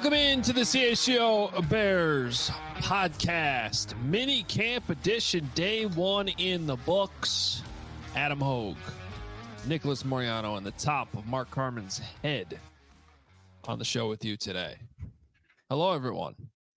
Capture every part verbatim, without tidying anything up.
Welcome into the C H G O Bears podcast, mini camp edition, day one in the books. Adam Hogue, Nicholas Moriano, and the top of Mark Carman's head on the show with you today. Hello, everyone.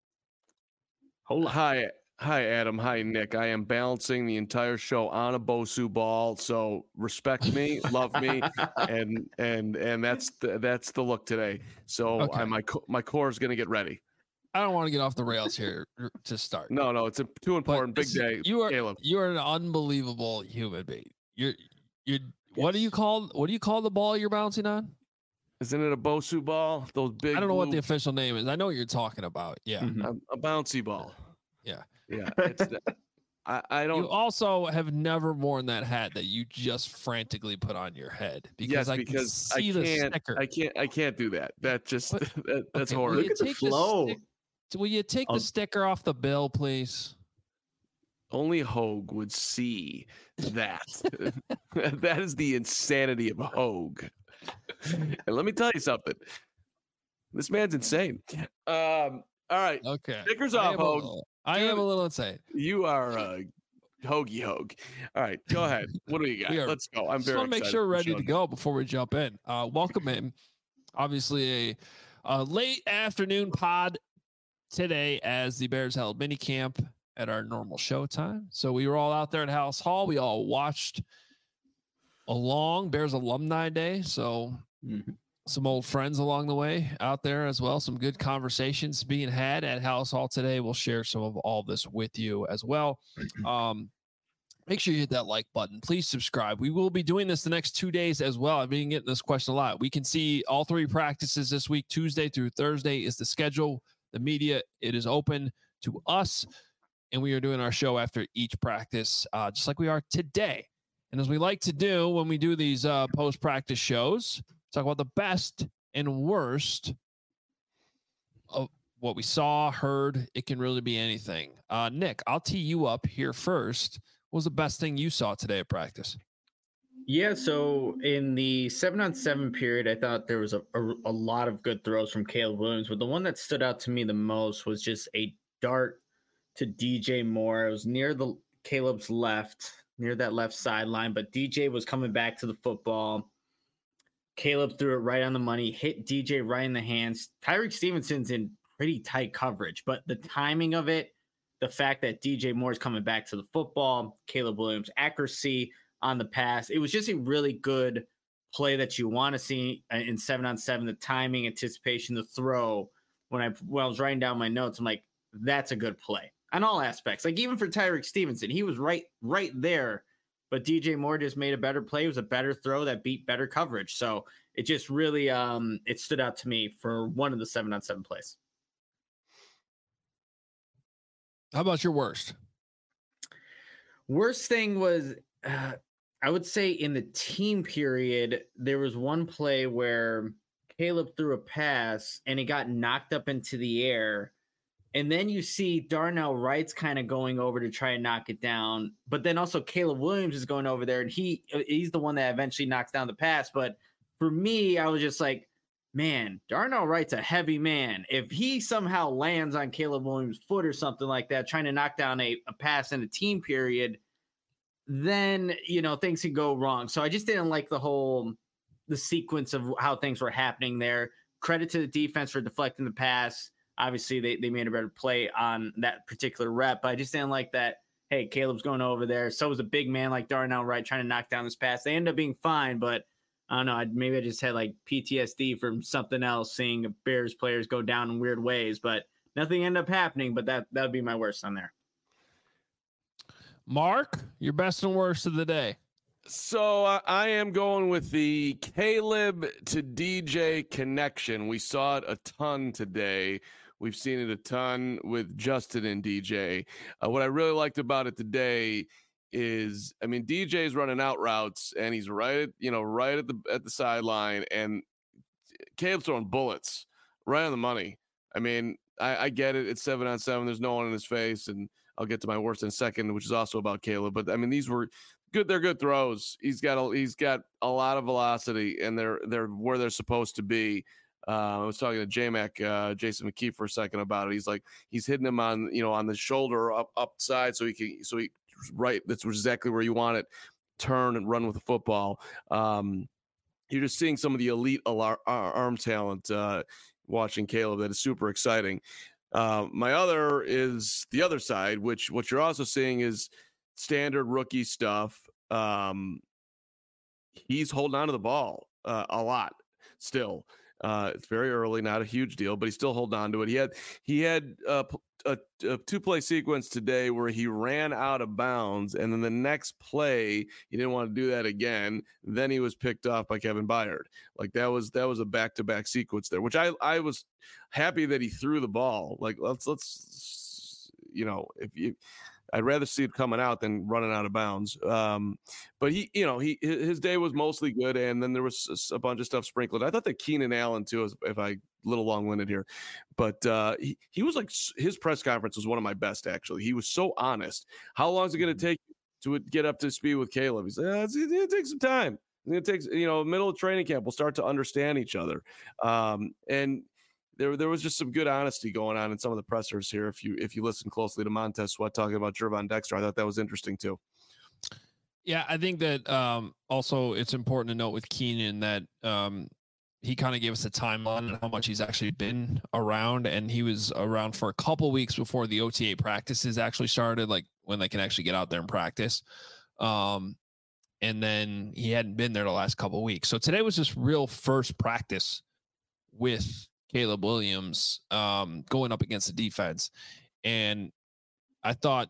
Hola. Hi, hi, Adam. Hi, Nick. I am balancing the entire show on a Bosu ball, so respect me, love me, and and and that's the, that's the look today. So okay. I, my my core is going to get ready. I don't want to get off the rails here to start. No, no, it's a too important. Big day. You are Caleb. You are an unbelievable human being. You're you're. Yes. What do you call what do you call the ball you're bouncing on? Isn't it a Bosu ball? Those big. I don't know blue... what the official name is. I know what you're talking about. Yeah, mm-hmm. a, a bouncy ball. Yeah, yeah. It's, I I don't. You also have never worn that hat that you just frantically put on your head because yes, I because can see I the can't. sticker. I can't. I can't do that. That just but, that, that's okay, horrible. Look at the flow. The stick, will you take I'll... the sticker off the bill, please? Only Hogue would see that. That is the insanity of Hogue. And let me tell you something. This man's insane. Um, all right. Okay. Stickers off, Hogue. Little, I Dude, am a little insane. You are uh, Hoagie Hogue. All right. Go ahead. What do you got? Are, Let's go. I'm just very want to make sure we're ready to go before we jump in. Uh, welcome in. Obviously, a, a late afternoon pod today as the Bears held mini camp at our normal show time. So we were all out there at House Hall. We all watched along Bears Alumni Day. So mm-hmm. some old friends along the way out there as well. Some good conversations being had at House Hall today. We'll share some of all this with you as well. Um, make sure you hit that like button. Please subscribe. We will be doing this the next two days as well. I've been getting this question a lot. We can see all three practices this week. Tuesday through Thursday is the schedule. The media, it is open to us. And we are doing our show after each practice, uh, just like we are today. And as we like to do when we do these uh, post-practice shows, talk about the best and worst of what we saw, heard. It can really be anything. Uh, Nick, I'll tee you up here first. What was the best thing you saw today at practice? Yeah, so in the seven on seven period, I thought there was a, a, a lot of good throws from Caleb Williams, but the one that stood out to me the most was just a dart to D J Moore. It was near the Caleb's left, near that left sideline, but D J was coming back to the football. Caleb threw it right on the money, hit D J right in the hands. Tyreek Stevenson's in pretty tight coverage, but the timing of it, the fact that D J Moore's coming back to the football, Caleb Williams' accuracy on the pass, it was just a really good play that you want to see in seven on seven. The timing, anticipation, the throw. When I when I was writing down my notes, I'm like, that's a good play on all aspects. Like even for Tyreek Stevenson, he was right right there. But D J Moore just made a better play. It was a better throw that beat better coverage. So it just really um, it stood out to me for one of the seven on seven plays. How about your worst? Worst thing was, uh, I would say in the team period, there was one play where Caleb threw a pass and it got knocked up into the air. And then you see Darnell Wright's kind of going over to try and knock it down. But then also Caleb Williams is going over there, and he he's the one that eventually knocks down the pass. But for me, I was just like, man, Darnell Wright's a heavy man. If he somehow lands on Caleb Williams' foot or something like that, trying to knock down a, a pass in a team period, then, you know, things could go wrong. So I just didn't like the whole, the sequence of how things were happening there. Credit to the defense for deflecting the pass. Obviously, they, they made a better play on that particular rep, but I just didn't like that. Hey, Caleb's going over there. So was a big man like Darnell Wright trying to knock down this pass. They ended up being fine, but I don't know. I, maybe I just had like P T S D from something else, seeing Bears players go down in weird ways, but nothing ended up happening. But that that would be my worst on there. Mark, your best and worst of the day. So uh, I am going with the Caleb to D J connection. We saw it a ton today. We've seen it a ton with Justin and D J. Uh, what I really liked about it today is, I mean, D J's running out routes and he's right, at, you know, right at the at the sideline, and Caleb's throwing bullets right on the money. I mean, I, I get it. It's seven on seven. There's no one in his face, and I'll get to my worst in a second, which is also about Caleb. But I mean, these were good. They're good throws. He's got a, he's got a lot of velocity, and they're they're where they're supposed to be. Uh, I was talking to J-Mac, uh, Jason McKee for a second about it. He's like, he's hitting him on, you know, on the shoulder up upside, so he can, so he right. That's exactly where you want it. Turn and run with the football. Um, you're just seeing some of the elite alar- arm talent. Uh, watching Caleb, that is super exciting. Uh, my other is the other side, which what you're also seeing is standard rookie stuff. Um, he's holding on to the ball uh, a lot still. Uh, it's very early, not a huge deal, but he's still holding on to it. He had he had a, a, a two play sequence today where he ran out of bounds, and then the next play he didn't want to do that again. Then he was picked off by Kevin Byard. Like that was that was a back to back sequence there, which I I was happy that he threw the ball. Like let's let's you know if you. I'd rather see it coming out than running out of bounds. Um, but he, you know, he his day was mostly good, and then there was a bunch of stuff sprinkled. I thought that Keenan Allen too, if I a little long winded here, but uh, he he was like his press conference was one of my best actually. He was so honest. How long is it going to take to get up to speed with Caleb? He said eh, it's, it's going to take some time. It's going to take you know middle of training camp. We'll start to understand each other, um, and. There, there was just some good honesty going on in some of the pressers here. If you if you listen closely to Montez Sweat talking about Gervon Dexter, I thought that was interesting too. Yeah, I think that um, also it's important to note with Keenan that um, he kind of gave us a timeline on how much he's actually been around, and he was around for a couple weeks before the O T A practices actually started, like when they can actually get out there and practice. Um, and then he hadn't been there the last couple of weeks. So today was just real first practice with Caleb Williams um, going up against the defense. And I thought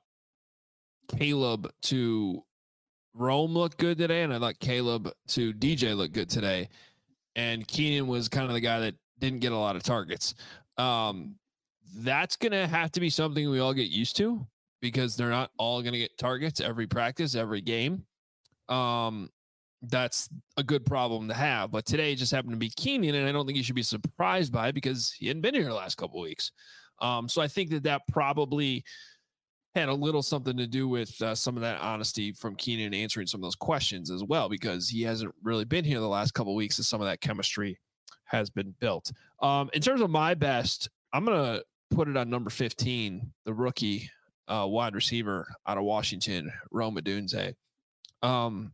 Caleb to Rome looked good today, and I thought Caleb to D J looked good today. And Keenan was kind of the guy that didn't get a lot of targets. Um, that's going to have to be something we all get used to because they're not all going to get targets every practice, every game. Um, That's a good problem to have. But today just happened to be Keenan, and I don't think you should be surprised by it because he hadn't been here the last couple of weeks. Um, so I think that that probably had a little something to do with uh, some of that honesty from Keenan answering some of those questions as well, because he hasn't really been here the last couple of weeks, and some of that chemistry has been built. Um, in terms of my best, I'm going to put it on number fifteen, the rookie uh, wide receiver out of Washington, Rome Odunze. Um,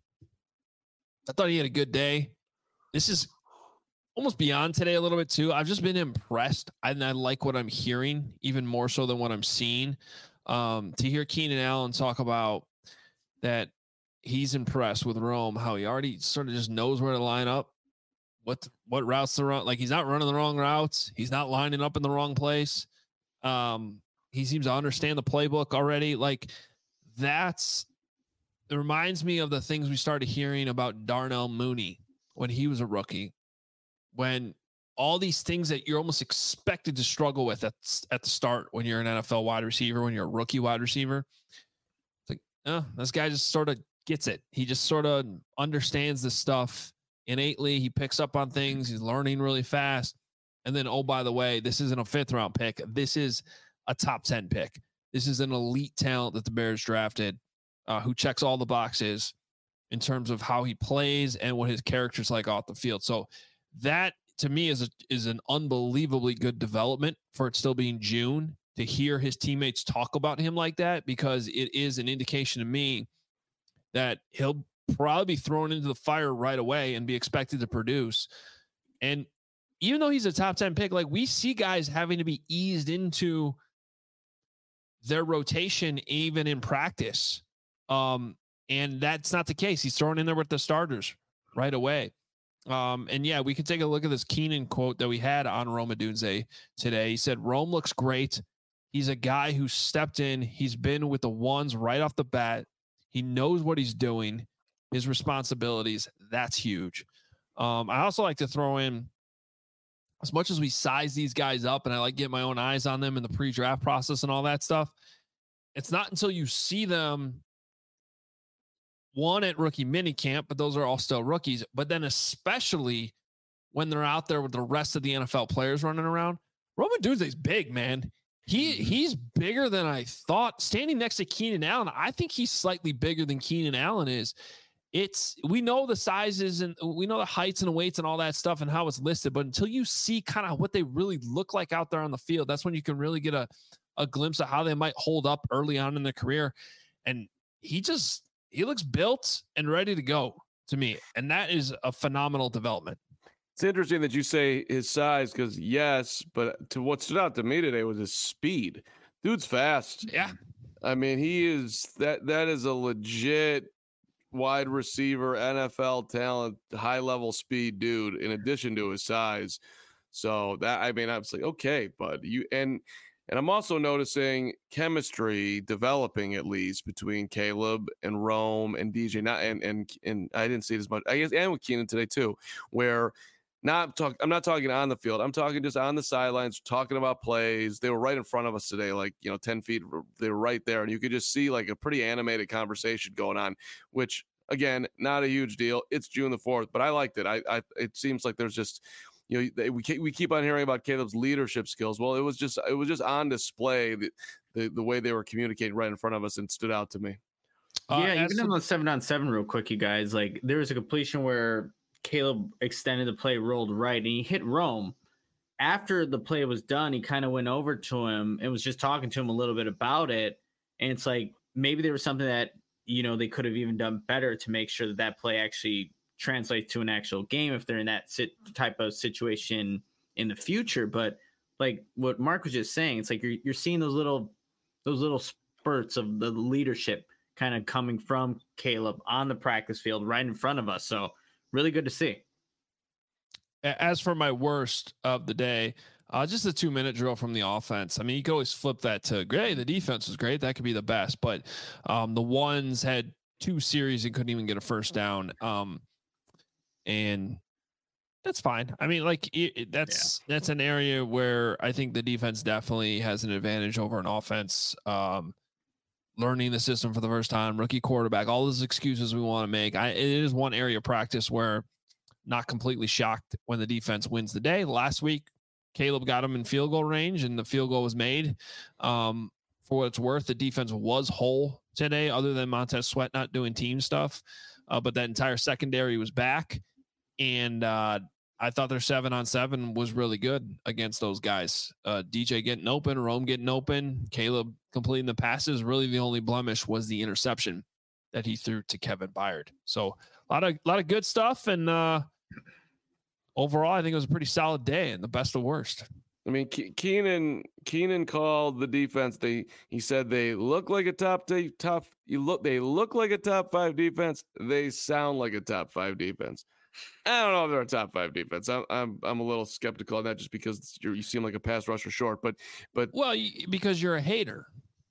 I thought he had a good day. This is almost beyond today a little bit too. I've just been impressed, and I like what I'm hearing even more so than what I'm seeing. Um, to hear Keenan Allen talk about that he's impressed with Rome, how he already sort of just knows where to line up, what what routes to run. Like he's not running the wrong routes. He's not lining up in the wrong place. Um, he seems to understand the playbook already. Like that's it reminds me of the things we started hearing about Darnell Mooney when he was a rookie, when all these things that you're almost expected to struggle with at, at the start when you're an N F L wide receiver, when you're a rookie wide receiver. It's like, oh, this guy just sort of gets it. He just sort of understands this stuff innately. He picks up on things. He's learning really fast. And then, oh, by the way, this isn't a fifth round pick. This is a top ten pick. This is an elite talent that the Bears drafted. Uh, who checks all the boxes in terms of how he plays and what his character's like off the field. So that to me is a, is an unbelievably good development for it still being June to hear his teammates talk about him like that, because it is an indication to me that he'll probably be thrown into the fire right away and be expected to produce. And even though he's a top ten pick, like we see guys having to be eased into their rotation, even in practice. Um, and that's not the case. He's thrown in there with the starters right away. Um, and yeah, we can take a look at this Keenan quote that we had on Rome Odunze today. He said, Rome looks great. He's a guy who stepped in. He's been with the ones right off the bat. He knows what he's doing, his responsibilities. That's huge. Um, I also like to throw in, as much as we size these guys up and I like get my own eyes on them in the pre-draft process and all that stuff, it's not until you see them one at rookie mini camp, but those are all still rookies. But then especially when they're out there with the rest of the N F L players running around, Rome Odunze's big, man. He he's bigger than I thought. Standing next to Keenan Allen, I think he's slightly bigger than Keenan Allen is. it's, we know the sizes and we know the heights and weights and all that stuff and how it's listed, but until you see kind of what they really look like out there on the field, that's when you can really get a, a glimpse of how they might hold up early on in their career. And he just, he looks built and ready to go to me. And that is a phenomenal development. It's interesting that you say his size, because yes, but to what stood out to me today was his speed. Dude's fast. Yeah. I mean, he is that that is a legit wide receiver, N F L talent, high level speed dude, in addition to his size. So that, I mean, I was like, okay, bud, you and and I'm also noticing chemistry developing, at least between Caleb and Rome and D J. Not and and and I didn't see it as much, I guess, and with Keenan today too, where not talk. I'm not talking on the field. I'm talking just on the sidelines, talking about plays. They were right in front of us today, like, you know, ten feet. They were right there, and you could just see like a pretty animated conversation going on. Which, again, not a huge deal. It's June the fourth, but I liked it. I, I it seems like there's just, you know, they, we we keep on hearing about Caleb's leadership skills. Well, it was just it was just on display, the the, the way they were communicating right in front of us, and stood out to me. Uh, yeah, as even on the seven on seven, real quick, you guys, like there was a completion where Caleb extended the play, rolled right, and he hit Rome. After the play was done, he kind of went over to him and was just talking to him a little bit about it. And it's like maybe there was something that, you know, they could have even done better to make sure that that play actually translates to an actual game if they're in that sit- type of situation in the future. But like what Mark was just saying, it's like you're you're seeing those little those little spurts of the leadership kind of coming from Caleb on the practice field right in front of us. So really good to see. As for my worst of the day, uh, just a two minute drill from the offense. I mean, you could always flip that to great. The defense was great. That could be the best, but um, the ones had two series and couldn't even get a first down. Um, and that's fine. I mean, like it, it, that's, yeah. that's an area where I think the defense definitely has an advantage over an offense. Um, learning the system for the first time, rookie quarterback, all those excuses we want to make. I, it is one area of practice where not completely shocked when the defense wins the day. Last week, Caleb got him in field goal range and the field goal was made. Um, for what it's worth, the defense was whole today, other than Montez Sweat not doing team stuff. Uh, but that entire secondary was back. And uh, I thought their seven on seven was really good against those guys. Uh, D J getting open, Rome getting open, Caleb completing the passes. Really, the only blemish was the interception that he threw to Kevin Byard. So a lot of a lot of good stuff, and uh, overall, I think it was a pretty solid day, and the best of worst. I mean, Ke- Keenan Keenan called the defense. They he said they look like a top t- top. You look they look like a top five defense. They sound like a top five defense. I don't know if they're a top five defense. I'm I'm I'm a little skeptical on that, just because you're, you seem like a pass rusher short. But but well, because you're a hater.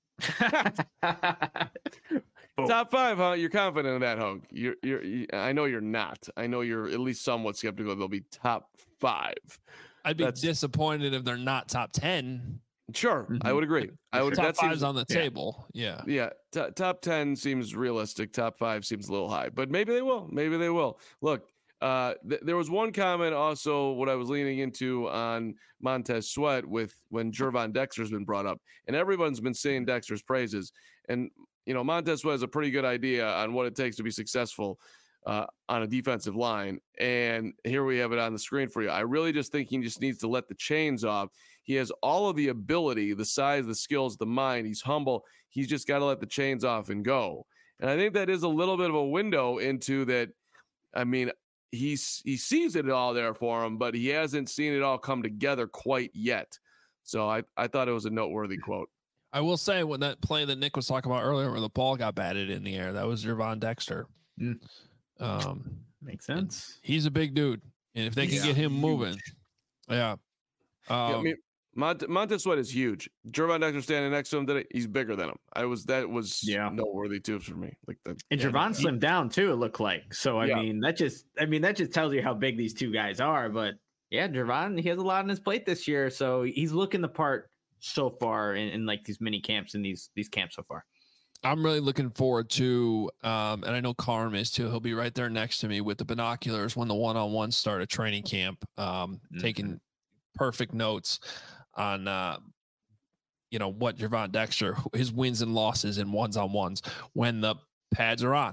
Top five, huh? You're confident in that, Hug? You're you're. You, I know you're not. I know you're at least somewhat skeptical they'll be top five. I'd be That's, disappointed if they're not top ten. Sure, mm-hmm. I would agree. I would. Top that five's seems, on the yeah. table. Yeah. Yeah. T- top ten seems realistic. Top five seems a little high, but maybe they will. Maybe they will. Look. Uh, th- there was one comment also what I was leaning into on Montez Sweat with when Gervon Dexter's been brought up, and everyone's been saying Dexter's praises. And, you know, Montez Sweat has a pretty good idea on what it takes to be successful uh, on a defensive line. And here we have it on the screen for you. I really just think he just needs to let the chains off. He has all of the ability, the size, the skills, the mind. He's humble. He's just got to let the chains off and go. And I think that is a little bit of a window into that. I mean, He's he sees it all there for him, but he hasn't seen it all come together quite yet. So I, I thought it was a noteworthy quote. I will say, when that play that Nick was talking about earlier, where the ball got batted in the air, that was Gervon Dexter. Mm. Um, Makes sense. He's a big dude, and if they can yeah, get him huge. moving, yeah. Um, yeah I mean, Mont- Montez Sweat is huge. Gervon Dexter standing next to him today, he's bigger than him. I was that was yeah. noteworthy too for me. Like that, and yeah, Gervon slimmed down too. It looked like so. I yeah. mean, that just I mean that just tells you how big these two guys are. But yeah, Gervon, he has a lot on his plate this year, so he's looking the part so far in, in like these mini camps and these these camps so far. I'm really looking forward to, um, and I know Carm is too. He'll be right there next to me with the binoculars when the one-on-one start at training camp, um, mm-hmm. taking perfect notes on, uh, you know, what Gervon Dexter, his wins and losses in ones on ones when the pads are on,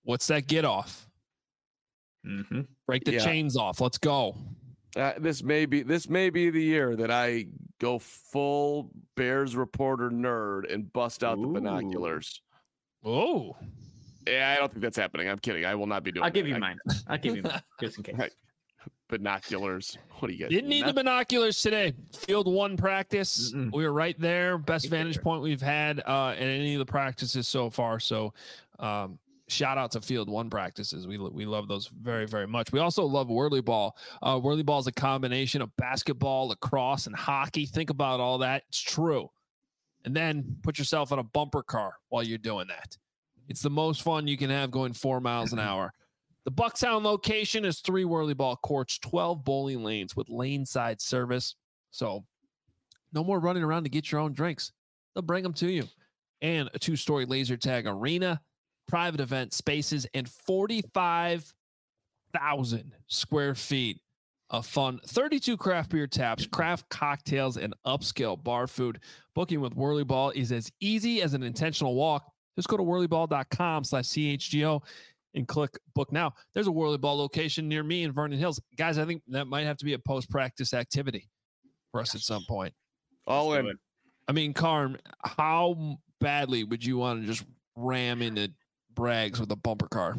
What's that get off? Mm-hmm. Break the Yeah. chains off. Let's go. Uh, this may be this may be the year that I go full Bears reporter nerd and bust out the Ooh. binoculars. Oh, Yeah, I don't think that's happening. I'm kidding. I will not be doing. I'll give that. you I- mine. I'll give you mine just in case. Right. Binoculars. What do you guys? didn't need the binoculars today. Field one practice. Mm-mm. We were right there. Best Right vantage there. point we've had uh, in any of the practices so far. So, um, shout out to field one practices. We we love those very, very much. We also love whirly ball. Uh, whirly ball is a combination of basketball, lacrosse, and hockey. Think about all that. It's true. And then put yourself in a bumper car while you're doing that. It's the most fun you can have going four miles an hour. The Bucktown location is three whirly ball courts, twelve bowling lanes with lane side service. So no more running around to get your own drinks. They'll bring them to you. And a two-story laser tag arena, private event spaces, and forty-five thousand square feet of fun. thirty-two craft beer taps, craft cocktails, and upscale bar food. Booking with Whirly Ball is as easy as an intentional walk. Just go to whirlyball.com slash CHGO and click book now. There's a Whirly Ball location near me in Vernon Hills. Guys, I think that might have to be a post-practice activity for us at some point. All Let's do in. it. I mean, Carm, how badly would you want to just ram into Braggs with a bumper car?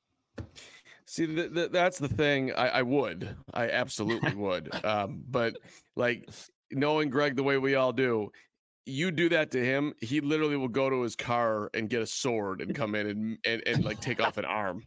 See, th- th- that's the thing. I, I would. I absolutely would. Um, but like knowing Greg the way we all do, you do that to him, he literally will go to his car and get a sword and come in and and, and like take off an arm.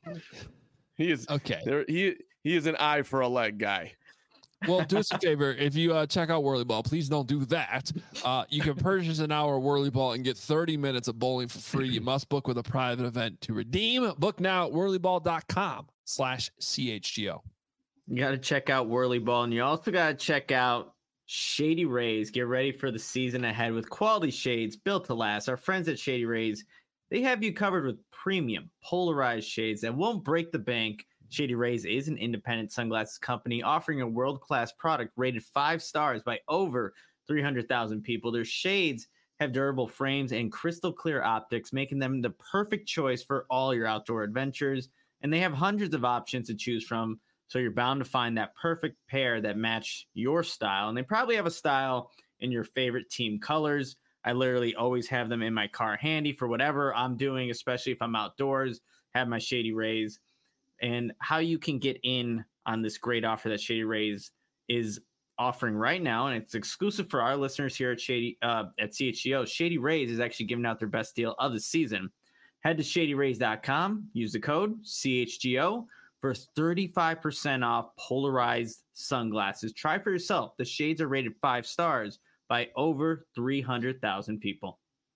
He is Okay. there. He he is an eye for a leg guy. Well, do us a favor. If you uh, check out Whirly Ball, please don't do that. Uh, you can purchase an hour of Whirly Ball and get thirty minutes of bowling for free. You must book with a private event to redeem. Book now at whirlyball.com slash CHGO. You got to check out Whirly Ball, and you also got to check out Shady Rays. Get ready for the season ahead with quality shades built to last. Our friends at Shady Rays, they have you covered with premium polarized shades that won't break the bank. Shady Rays is an independent sunglasses company offering a world-class product rated five stars by over three hundred thousand people. Their shades have durable frames and crystal clear optics, making them the perfect choice for all your outdoor adventures. And they have hundreds of options to choose from, so you're bound to find that perfect pair that match your style. And they probably have a style in your favorite team colors. I literally always have them in my car handy for whatever I'm doing, especially if I'm outdoors, have my Shady Rays. And how you can get in on this great offer that Shady Rays is offering right now, and it's exclusive for our listeners here at Shady uh, at C H G O. Shady Rays is actually giving out their best deal of the season. Head to shady rays dot com, use the code C H G O for thirty-five percent off polarized sunglasses. Try for yourself. The shades are rated five stars by over three hundred thousand people.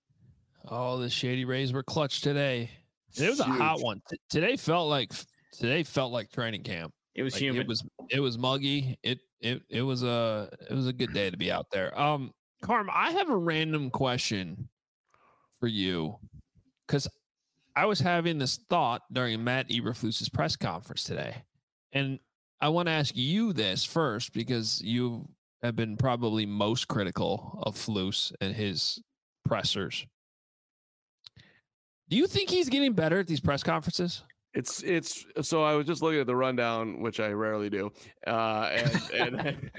Oh, the Shady Rays were clutch today. It was a Huge. hot one. T- today felt like today felt like training camp. It was Like, humid. It was it was muggy. It it it was a it was a good day to be out there. Um, Carm, I have a random question for you because I was having this thought during Matt Eberflus's press conference today, and I want to ask you this first because you have been probably most critical of Flus and his pressers. Do you think he's getting better at these press conferences? It's it's so I was just looking at the rundown, which I rarely do, uh, and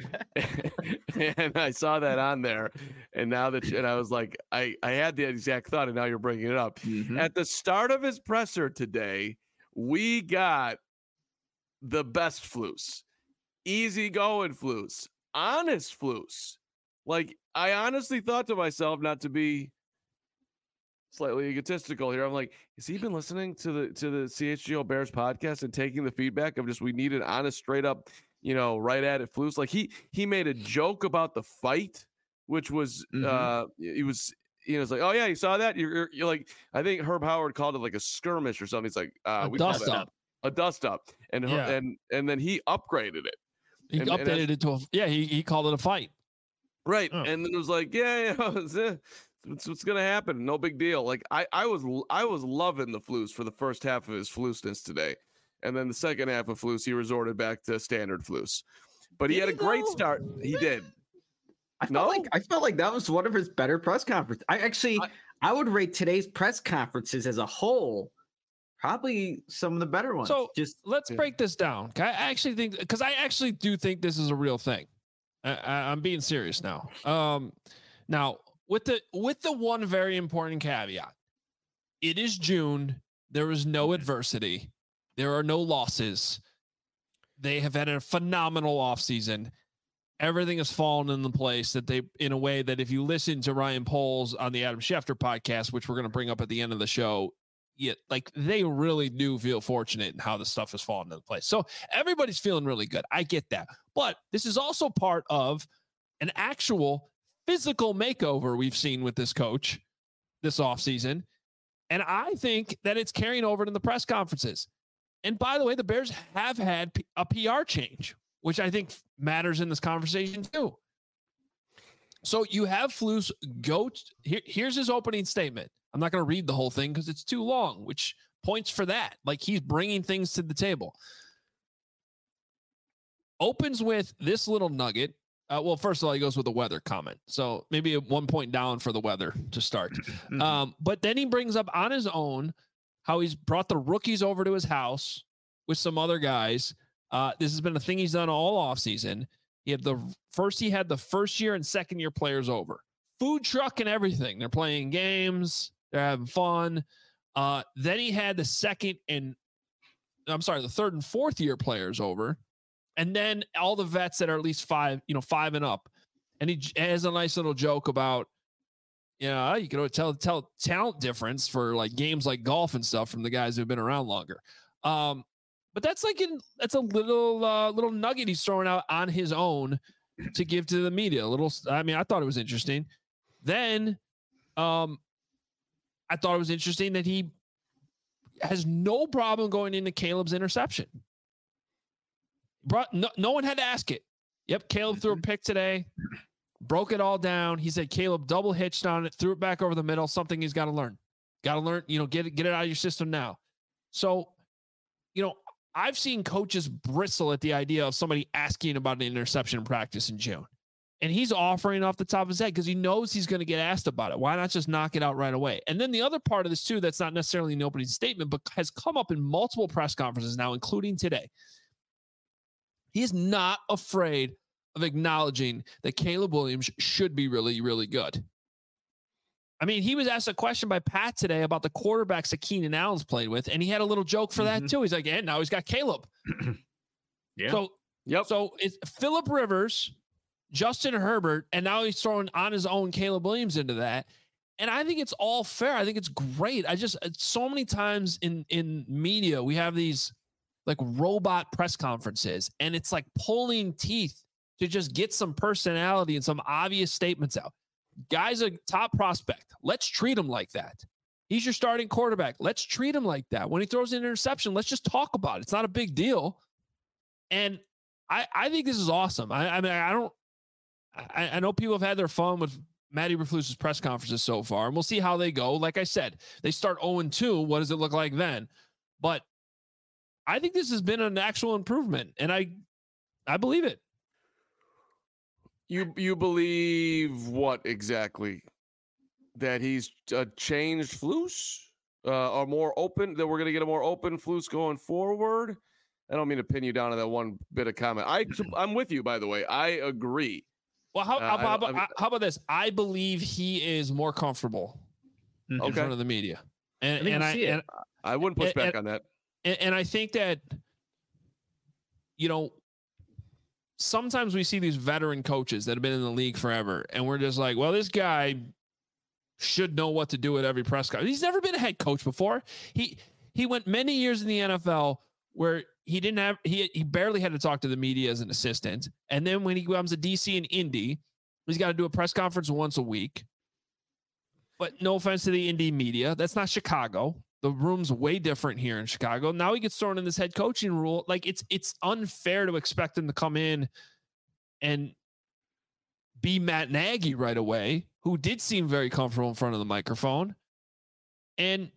and, and I saw that on there, and now that and I was like, I I had the exact thought, and now you're bringing it up. Mhm. At the start of his presser today, we got the best Flus, easy going Flus, honest Flus. Like I honestly thought to myself, not to be slightly egotistical here. I'm like, has he been listening to the to the C H G O Bears podcast and taking the feedback of just we need an honest, straight up, you know, right at it Flus? Like he he made a joke about the fight, which was Mhm. uh he was you know it's like, oh yeah, you saw that? You're, you're you're like, I think Herb Howard called it like a skirmish or something. He's like, uh A we call dust that up. a dust up, and Her- Yeah. and and then he upgraded it. He And- and updated it to a yeah. He he called it a fight. Right. Oh. And then it was like, yeah, yeah, it's, uh, it's what's gonna happen. No big deal. Like I, I was I was loving the Flus for the first half of his Flusness today. And then the second half of Flus, he resorted back to standard Flus. But he Did had a he, great though? start. He did. I felt No? like I felt like that was one of his better press conferences. I actually I- I would rate today's press conferences as a whole Probably some of the better ones. So just let's yeah. break this down. I actually think, because I actually do think this is a real thing. I, I, I'm being serious now. Um, now with the with the one very important caveat, it is June. There is no adversity. There are no losses. They have had a phenomenal offseason. Everything has fallen into place that they, in a way that if you listen to Ryan Poles on the Adam Schefter podcast, which we're going to bring up at the end of the show, yeah, like they really do feel fortunate in how the stuff has fallen into place. So everybody's feeling really good. I get that. But this is also part of an actual physical makeover we've seen with this coach this offseason. And I think that it's carrying over to the press conferences. And by the way, the Bears have had a P R change, which I think matters in this conversation too. So you have Flus go. T- here, here's his opening statement. I'm not going to read the whole thing because it's too long, which points for that. Like he's bringing things to the table. Opens with this little nugget. Uh, well, first of all, he goes with a weather comment. So maybe a one point down for the weather to start. um, but then he brings up on his own how he's brought the rookies over to his house with some other guys. Uh, this has been a thing he's done all offseason. He had the first, he had the first year and second year players over. Food truck and everything. They're playing games. They're having fun. Uh, then he had the second and I'm sorry, the third and fourth year players over. And then all the vets that are at least five, you know, five and up. And he has a nice little joke about, you know, you can tell, tell talent difference for like games like golf and stuff from the guys who've been around longer. Um, but that's like, in, that's a little, uh, little nugget he's throwing out on his own to give to the media. A little, I mean, I thought it was interesting. Then, um, I thought it was interesting that he has no problem going into Caleb's interception. Brought, no, no one had to ask it. Yep, Caleb threw a pick today, broke it all down. He said Caleb double hitched on it, threw it back over the middle, something he's got to learn. Got to learn, you know, get it, get it out of your system now. So, you know, I've seen coaches bristle at the idea of somebody asking about an interception in practice in June. And he's offering off the top of his head because he knows he's going to get asked about it. Why not just knock it out right away? And then the other part of this, too, that's not necessarily an opening statement, but has come up in multiple press conferences now, including today. He is not afraid of acknowledging that Caleb Williams should be really, really good. I mean, he was asked a question by Pat today about the quarterbacks that Keenan Allen's played with, and he had a little joke for mm-hmm. that, too. He's like, and now he's got Caleb. yeah. So, yep. So it's Phillip Rivers, Justin Herbert, and now he's throwing on his own Caleb Williams into that. And I think it's all fair. I think it's great. I just, so many times in, in media, we have these like robot press conferences, and it's like pulling teeth to just get some personality and some obvious statements out. Guy's a top prospect. Let's treat him like that. He's your starting quarterback. Let's treat him like that. When he throws an interception, let's just talk about it. It's not a big deal. And I, I think this is awesome. I, I mean, I don't, I, I know people have had their fun with Matty Eberflus's press conferences so far, and we'll see how they go. Like I said, they start oh and two. What does it look like then? But I think this has been an actual improvement, and I, I believe it. You you believe what exactly? That he's uh, changed Flus, uh, or more open? That we're going to get a more open Flus going forward? I don't mean to pin you down to that one bit of comment. I I'm with you, by the way. I agree. Well, how, uh, how, how, I, about, how about this? I believe he is more comfortable in okay. front of the media, and I and I and, I wouldn't push and, back and, on that. And, and I think that, you know, sometimes we see these veteran coaches that have been in the league forever, and we're just like, well, this guy should know what to do at every press conference. He's never been a head coach before. He he went many years in the N F L where he didn't have he he barely had to talk to the media as an assistant, and then when he becomes a D C in Indy, he's got to do a press conference once a week. But no offense to the Indy media, that's not Chicago. The room's way different here in Chicago. Now he gets thrown in this head coaching rule. Like it's it's unfair to expect him to come in and be Matt Nagy right away, who did seem very comfortable in front of the microphone. And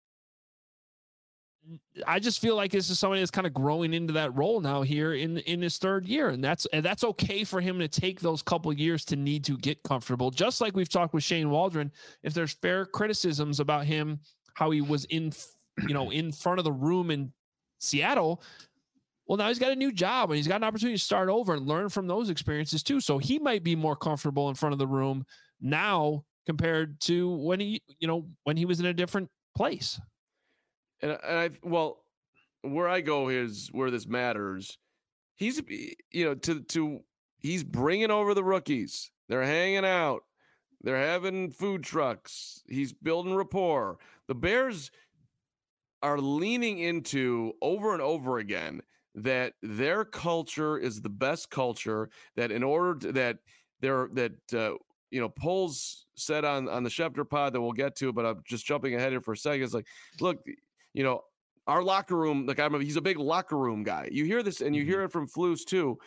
I just feel like this is somebody that's kind of growing into that role now here in, in his third year. And that's, and that's okay for him to take those couple years to need to get comfortable. Just like we've talked with Shane Waldron, if there's fair criticisms about him, how he was in you know, in front of the room in Seattle. Well, now he's got a new job and he's got an opportunity to start over and learn from those experiences too. So he might be more comfortable in front of the room now compared to when he, you know, when he was in a different place. And, and I, well, where I go is where this matters. He's, you know, to, to, he's bringing over the rookies. They're hanging out. They're having food trucks. He's building rapport. The Bears are leaning into over and over again that their culture is the best culture, that in order to, that they're, that, uh, you know, Poles said on, on the Schefter pod that we'll get to, but I'm just jumping ahead here for a second. It's like, look, you know, our locker room, like I'm a, he's a big locker room guy. You hear this and you hear it from Flus too.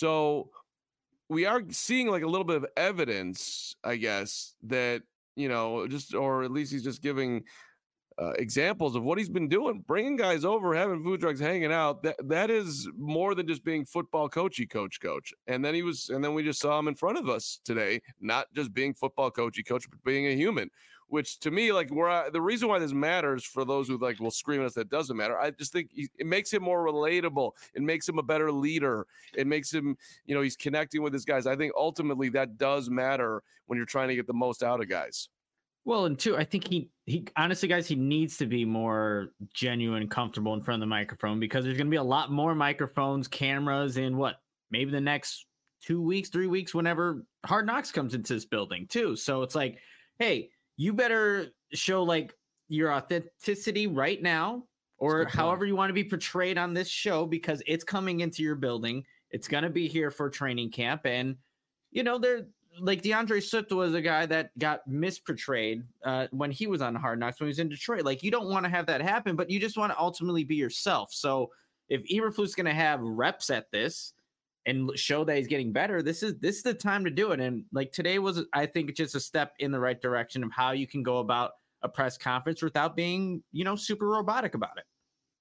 So we are seeing like a little bit of evidence, I guess, that, you know, just, or at least he's just giving uh, examples of what he's been doing, bringing guys over, having food trucks, hanging out. That that is more than just being football coachy coach coach. And then he was, and then we just saw him in front of us today, not just being football coachy coach, but being a human. Which to me, like, where I, the reason why this matters for those who like will scream at us that doesn't matter, I just think he, it makes him more relatable. It makes him a better leader. It makes him, you know, he's connecting with his guys. I think ultimately that does matter when you're trying to get the most out of guys. Well, and two, I think he, he honestly, guys, he needs to be more genuine, comfortable in front of the microphone, because there's going to be a lot more microphones, cameras in what, maybe the next two weeks, three weeks, whenever Hard Knocks comes into this building too. So it's like, hey, you better show like your authenticity right now, or however you want to be portrayed on this show, because it's coming into your building. It's going to be here for training camp. And, you know, they're like DeAndre Swift was a guy that got misportrayed uh, when he was on Hard Knocks, when he was in Detroit. Like, you don't want to have that happen, but you just want to ultimately be yourself. So if Eberflus is going to have reps at this and show that he's getting better, this is this is the time to do it. And like today was, I think, just a step in the right direction of how you can go about a press conference without being, you know, super robotic about it.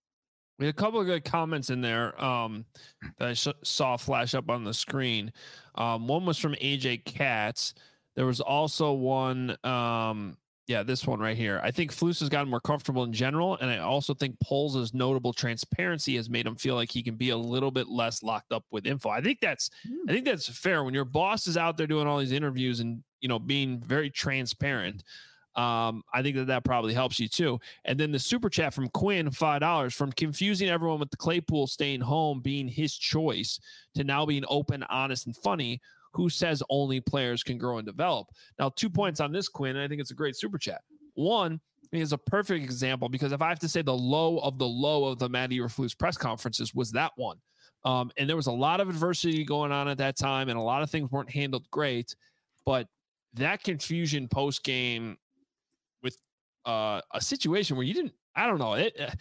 We had a couple of good comments in there um, that I sh- saw flash up on the screen. Um, one was from A J Katz. There was also one, um, yeah, this one right here. I think Flus has gotten more comfortable in general, and I also think Poles' notable transparency has made him feel like he can be a little bit less locked up with info. I think that's, I think that's fair. When your boss is out there doing all these interviews and, you know, being very transparent, Um, I think that that probably helps you too. And then the super chat from Quinn, five dollars, from confusing everyone with the Claypool staying home being his choice to now being open, honest, and funny. Who says only players can grow and develop? Now, two points on this, Quinn, and I think it's a great super chat. One is a perfect example, because if I have to say the low of the low of the Matt Eberflus press conferences was that one. Um, and there was a lot of adversity going on at that time, and a lot of things weren't handled great. But that confusion post game, with uh, a situation where you didn't, I don't know, it. Uh,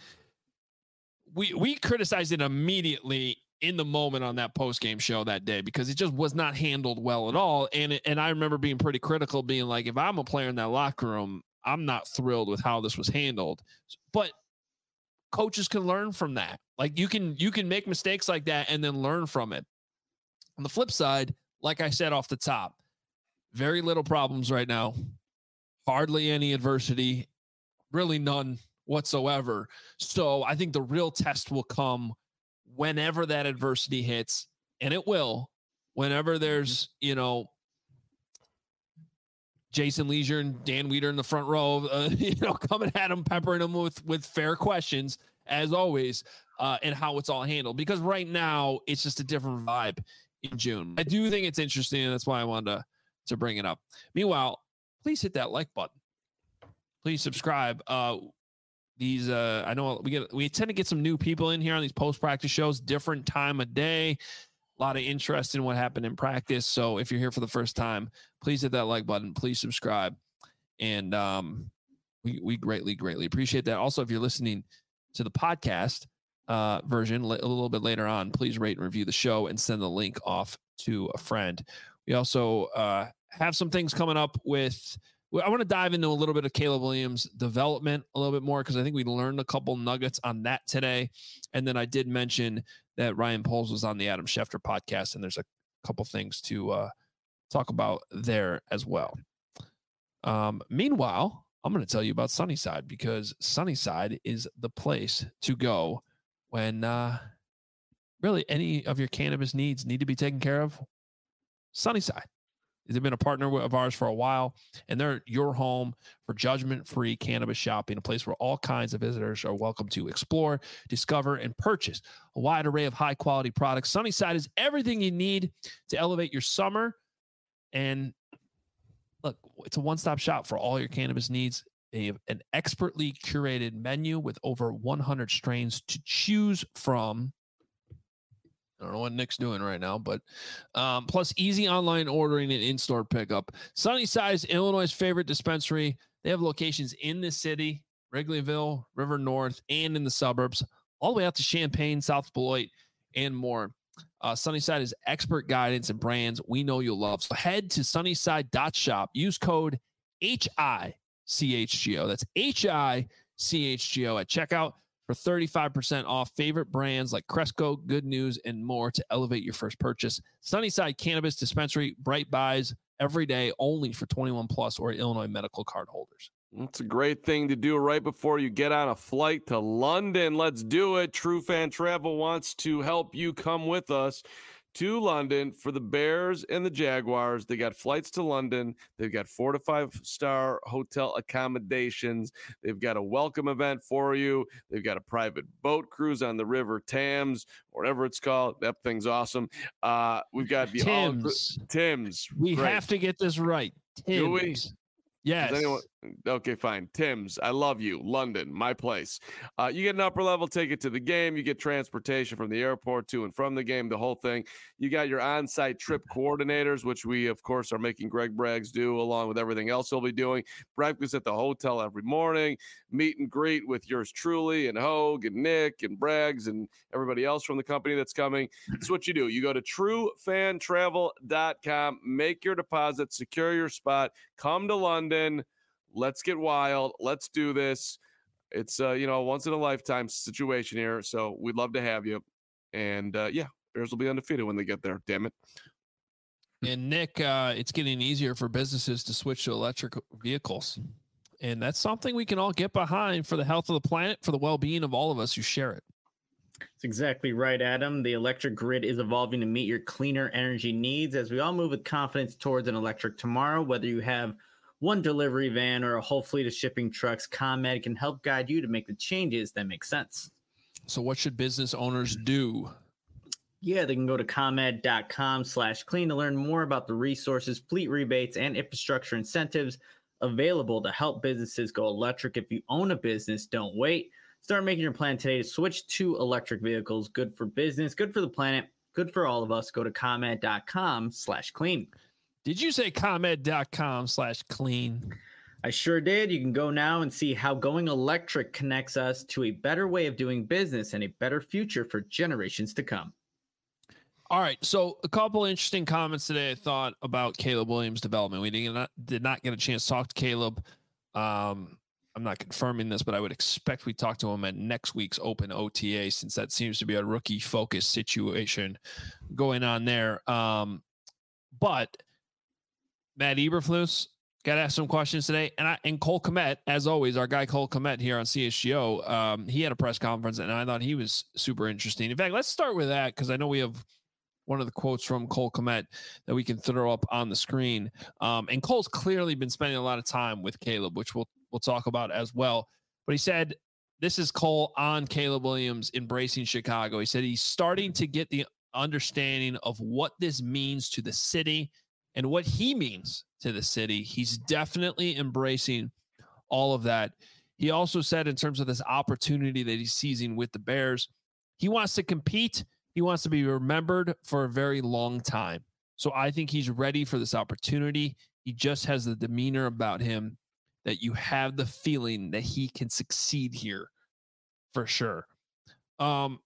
we we criticized it immediately in the moment on that post game show that day, because it just was not handled well at all. And it, and I remember being pretty critical, being like, if I'm a player in that locker room, I'm not thrilled with how this was handled. But coaches can learn from that. Like you can you can make mistakes like that and then learn from it. On the flip side, like I said off the top, very little problems right now. Hardly any adversity, really none whatsoever. So I think the real test will come whenever that adversity hits, and it will, whenever there's, you know, Jason Leisure and Dan Weeder in the front row, uh, you know, coming at him, peppering him with, with fair questions, as always, uh, and how it's all handled. Because right now it's just a different vibe in June. I do think it's interesting, and that's why I wanted to, to bring it up. Meanwhile, please hit that like button. Please subscribe. Uh, these, uh, I know we get, we tend to get some new people in here on these post-practice shows, different time of day, a lot of interest in what happened in practice. So if you're here for the first time, please hit that like button. Please subscribe. And um, we, we greatly, greatly appreciate that. Also, if you're listening to the podcast uh, version a little bit later on, please rate and review the show and send the link off to a friend. We also uh, have some things coming up with, I want to dive into a little bit of Caleb Williams' development a little bit more, because I think we learned a couple nuggets on that today. And then I did mention that Ryan Poles was on the Adam Schefter podcast, and there's a couple things to uh, talk about there as well. Um, meanwhile, I'm going to tell you about Sunnyside, because Sunnyside is the place to go when uh, really any of your cannabis needs need to be taken care of. Sunnyside. They've been a partner of ours for a while, and they're your home for judgment-free cannabis shopping, a place where all kinds of visitors are welcome to explore, discover, and purchase a wide array of high-quality products. Sunnyside is everything you need to elevate your summer. And look, it's a one-stop shop for all your cannabis needs. They have an expertly curated menu with over one hundred strains to choose from. I don't know what Nick's doing right now, but um, plus easy online ordering and in-store pickup. Sunnyside is Illinois' favorite dispensary. They have locations in the city, Wrigleyville, River North, and in the suburbs, all the way out to Champaign, South Beloit, and more. Uh, Sunnyside is expert guidance and brands we know you'll love. So head to sunnyside dot shop. Use code H I C H G O. That's H I C H G O at checkout for thirty-five percent off favorite brands like Cresco, Good News, and more to elevate your first purchase. Sunnyside Cannabis Dispensary, bright buys every day, only for twenty-one plus or Illinois medical card holders. It's a great thing to do right before you get on a flight to London. Let's do it. True Fan Travel wants to help you come with us to London for the Bears and the Jaguars. They got flights to London. They've got four to five star hotel accommodations. They've got a welcome event for you. They've got a private boat cruise on the River Thames, whatever it's called. That thing's awesome. Uh, we've got the Tim's. All, Tim's. We Great. have to get this right. Tim's. Do we? Yes. Anyone, okay, fine. Tim's, I love you. London, my place. Uh, you get an upper level ticket to the game. You get transportation from the airport to and from the game, the whole thing. You got your on-site trip coordinators, which we, of course, are making Greg Braggs do along with everything else he'll be doing. Breakfast at the hotel every morning. Meet and greet with yours truly and Hogue and Nick and Braggs and everybody else from the company that's coming. That's what you do. You go to true fan travel dot com, make your deposit, secure your spot, come to London. Let's get wild. Let's do this. It's uh, you know, a once in a lifetime situation here. So we'd love to have you. And uh, yeah, Bears will be undefeated when they get there. Damn it. And Nick, uh, it's getting easier for businesses to switch to electric vehicles. And that's something we can all get behind for the health of the planet, for the well-being of all of us who share it. That's exactly right, Adam. The electric grid is evolving to meet your cleaner energy needs as we all move with confidence towards an electric tomorrow. Whether you have one delivery van or a whole fleet of shipping trucks, ComEd can help guide you to make the changes that make sense. So what should business owners do? Yeah, they can go to ComEd dot com slash clean to learn more about the resources, fleet rebates, and infrastructure incentives available to help businesses go electric. If you own a business, don't wait. Start making your plan today to switch to electric vehicles. Good for business, good for the planet, good for all of us. Go to ComEd dot com slash clean. Did you say ComEd dot com slash clean? I sure did. You can go now and see how going electric connects us to a better way of doing business and a better future for generations to come. All right. So a couple interesting comments today, I thought, about Caleb Williams' development. We did not, did not get a chance to talk to Caleb. Um, I'm not confirming this, but I would expect we talk to him at next week's open O T A, since that seems to be a rookie focus situation going on there. Um, but Matt Eberflus got to ask some questions today. And I, and Cole Kmet, as always, our guy Cole Kmet here on C H G O, um, he had a press conference and I thought he was super interesting. In fact, let's start with that, because I know we have one of the quotes from Cole Kmet that we can throw up on the screen. Um, and Cole's clearly been spending a lot of time with Caleb, which we'll, we'll talk about as well. But he said, this is Cole on Caleb Williams embracing Chicago. He said he's starting to get the understanding of what this means to the city and what he means to the city. He's definitely embracing all of that. He also said, in terms of this opportunity that he's seizing with the Bears, he wants to compete. He wants to be remembered for a very long time. So I think he's ready for this opportunity. He just has the demeanor about him that you have the feeling that he can succeed here for sure. Um,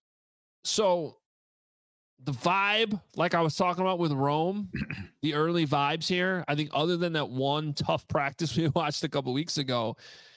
so the vibe, like I was talking about with Rome, the early vibes here, I think other than that one tough practice we watched a couple weeks ago,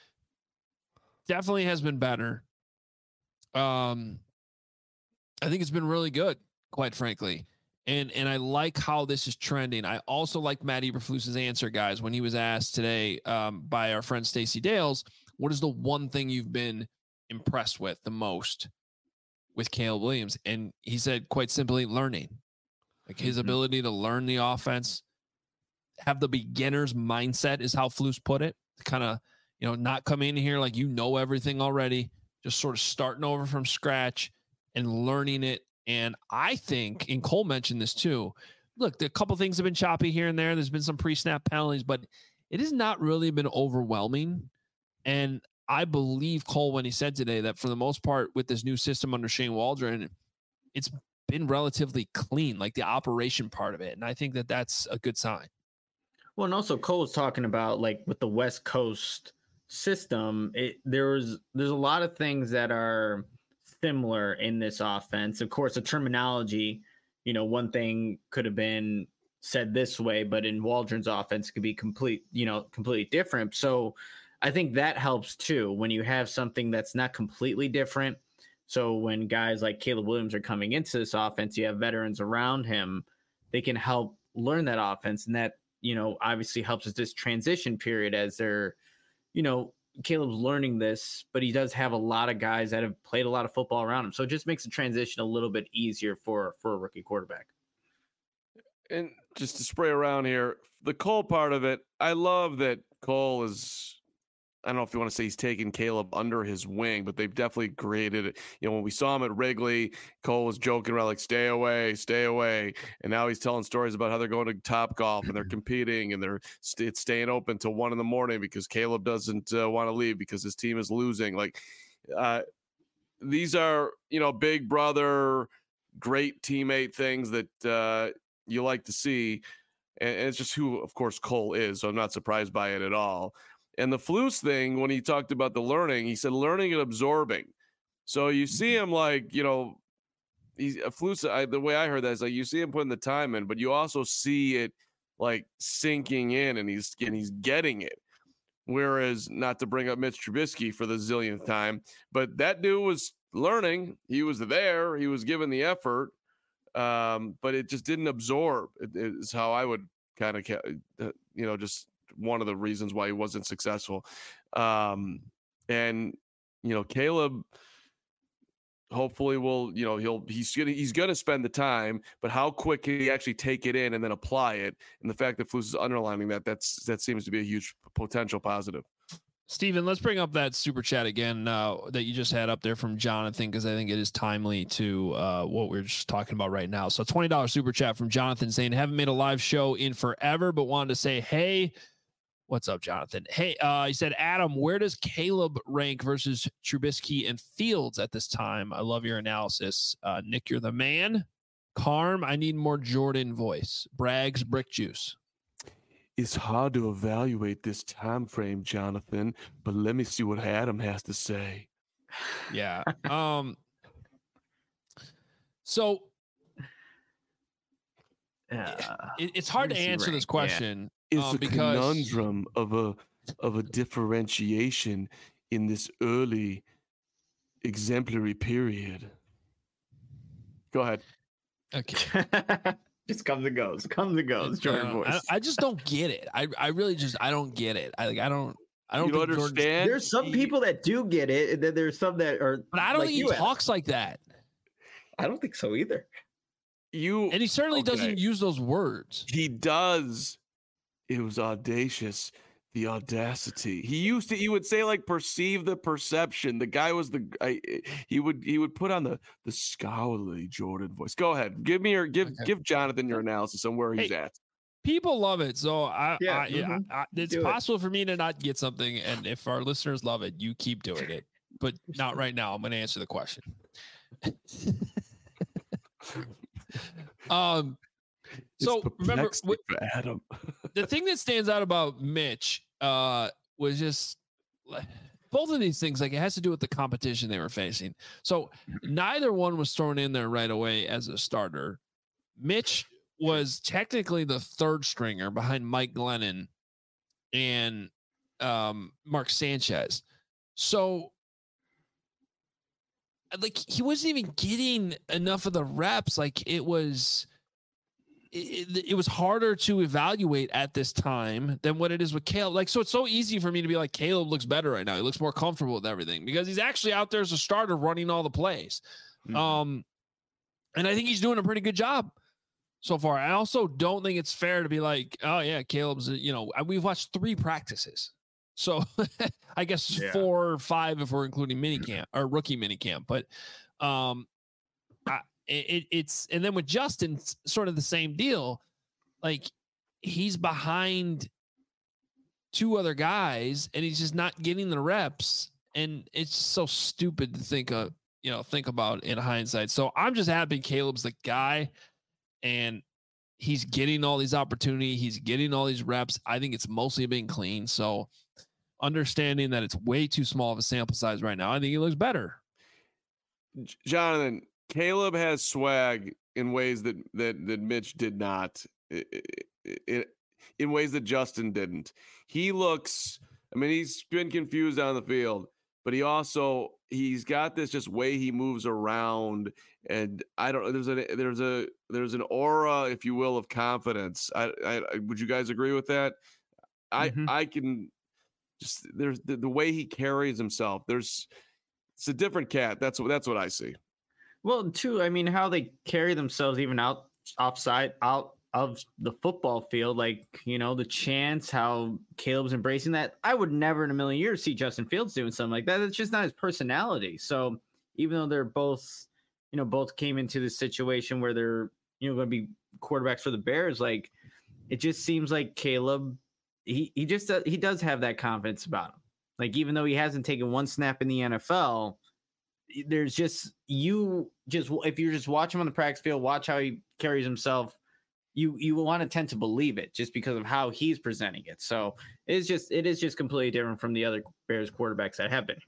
definitely has been better. Um, I think it's been really good, quite frankly. And and I like how this is trending. I also like Matt Eberflus's answer, guys, when he was asked today um, by our friend Stacey Dales, what is the one thing you've been impressed with the most with Caleb Williams? And he said, quite simply, learning. Like his mm-hmm. ability to learn the offense, have the beginner's mindset is how Flus put it. Kind of, you know, not come in here like you know everything already, just sort of starting over from scratch and learning it. And I think, and Cole mentioned this too, look, a couple things have been choppy here and there. There's been some pre-snap penalties, but it has not really been overwhelming. And I believe Cole when he said today that for the most part with this new system under Shane Waldron, it's been relatively clean, like the operation part of it. And I think that that's a good sign. Well, and also Cole was talking about like with the West Coast system, it, there's there's a lot of things that are similar in this offense. Of course, the terminology, you know, one thing could have been said this way, but in Waldron's offense could be complete, you know, completely different. So I think that helps too when you have something that's not completely different. So when guys like Caleb Williams are coming into this offense, you have veterans around him, they can help learn that offense. And that, you know, obviously helps us this transition period as they're, you know, Caleb's learning this, but he does have a lot of guys that have played a lot of football around him. So it just makes the transition a little bit easier for, for a rookie quarterback. And just to spray around here, the Cole part of it, I love that Cole is, I don't know if you want to say he's taking Caleb under his wing, but they've definitely created it. You know, when we saw him at Wrigley, Cole was joking around like, stay away, stay away. And now he's telling stories about how they're going to Top Golf and they're competing and they're st- it's staying open till one in the morning because Caleb doesn't uh, want to leave because his team is losing. Like uh, these are, you know, big brother, great teammate things that uh, you like to see. And, and it's just who, of course, Cole is. So I'm not surprised by it at all. And the Flus thing, when he talked about the learning, he said learning and absorbing. So you see him like, you know, he's a Flus. I, the way I heard that is like you see him putting the time in, but you also see it like sinking in, and he's and he's getting it. Whereas, not to bring up Mitch Trubisky for the zillionth time, but that dude was learning. He was there. He was given the effort, um, but it just didn't absorb. It, it's how I would kind of, you know, just. One of the reasons why he wasn't successful. Um, and, you know, Caleb hopefully will, you know, he'll, he's going to, he's going to spend the time, but how quick can he actually take it in and then apply it? And the fact that Flus is underlining that, that's, that seems to be a huge potential positive. Steven, let's bring up that super chat again uh, that you just had up there from Jonathan, because I think it is timely to uh, what we're just talking about right now. So twenty dollars super chat from Jonathan saying, haven't made a live show in forever, but wanted to say, hey, what's up, Jonathan? Hey, uh, he said, Adam, where does Caleb rank versus Trubisky and Fields at this time? I love your analysis. Uh, Nick, you're the man. Carm, I need more Jordan voice. Braggs, brick juice. It's hard to evaluate this time frame, Jonathan, but let me see what Adam has to say. Yeah. Um. So uh, it, it's hard to answer this question. Yeah. It's um, a because... conundrum of a of a differentiation in this early exemplary period. Go ahead. Okay. Just comes and goes. Comes and goes. Jordan uh, voice. I, I just don't get it. I, I really just I don't get it. I like I don't I don't, you don't think understand. There's some people that do get it, and then there's some that are. But I don't like think he talks like that. I don't think so either. You and he certainly okay. doesn't use those words. He does. It was audacious. The audacity. He used to. He would say like perceive the perception. The guy was the. I, he would. He would put on the the scholarly Jordan voice. Go ahead. Give me your. Give. Okay. Give Jonathan your analysis on where he's hey, at. People love it, so I. Yeah. I, Mm-hmm. I, I it's Do possible it. for me to not get something, and if our listeners love it, you keep doing it. But not right now. I'm going to answer the question. um. So remember, for Adam. The thing that stands out about Mitch uh, was just both of these things. Like it has to do with the competition they were facing. So neither one was thrown in there right away as a starter. Mitch was technically the third stringer behind Mike Glennon and um, Mark Sanchez. So like he wasn't even getting enough of the reps. Like it was. it, it was harder to evaluate at this time than what it is with Caleb. Like, so it's so easy for me to be like, Caleb looks better right now. He looks more comfortable with everything because he's actually out there as a starter running all the plays. Mm-hmm. Um, and I think he's doing a pretty good job so far. I also don't think it's fair to be like, oh yeah, Caleb's, you know, we've watched three practices. So I guess yeah. four or five if we're including minicamp or rookie minicamp. But um, I, it, it's and then with Justin, sort of the same deal. Like he's behind two other guys, and he's just not getting the reps. And it's so stupid to think of, you know, think about in hindsight. So I'm just happy Caleb's the guy, and he's getting all these opportunities. He's getting all these reps. I think it's mostly being clean. So understanding that it's way too small of a sample size right now, I think he looks better. Jonathan, Caleb has swag in ways that that that Mitch did not, it, it, in ways that Justin didn't. He looks, I mean, he's been confused on the field, but he also, he's got this just way he moves around, and I don't, there's a there's a there's an aura, if you will, of confidence. I, I would you guys agree with that? I mm-hmm. I can. Just there's the, the way he carries himself. There's it's a different cat. That's what that's what I see. Well, too, I mean, how they carry themselves even out offside out of the football field, like, you know, the chants, how Caleb's embracing that. I would never in a million years see Justin Fields doing something like that. It's just not his personality. So even though they're both, you know, both came into this situation where they're, you know, going to be quarterbacks for the Bears, like it just seems like Caleb. He he just uh, he does have that confidence about him. Like even though he hasn't taken one snap in the N F L, there's just you just if you're just watching him on the practice field, watch how he carries himself. You you want to tend to believe it just because of how he's presenting it. So it's just it is just completely different from the other Bears quarterbacks that have been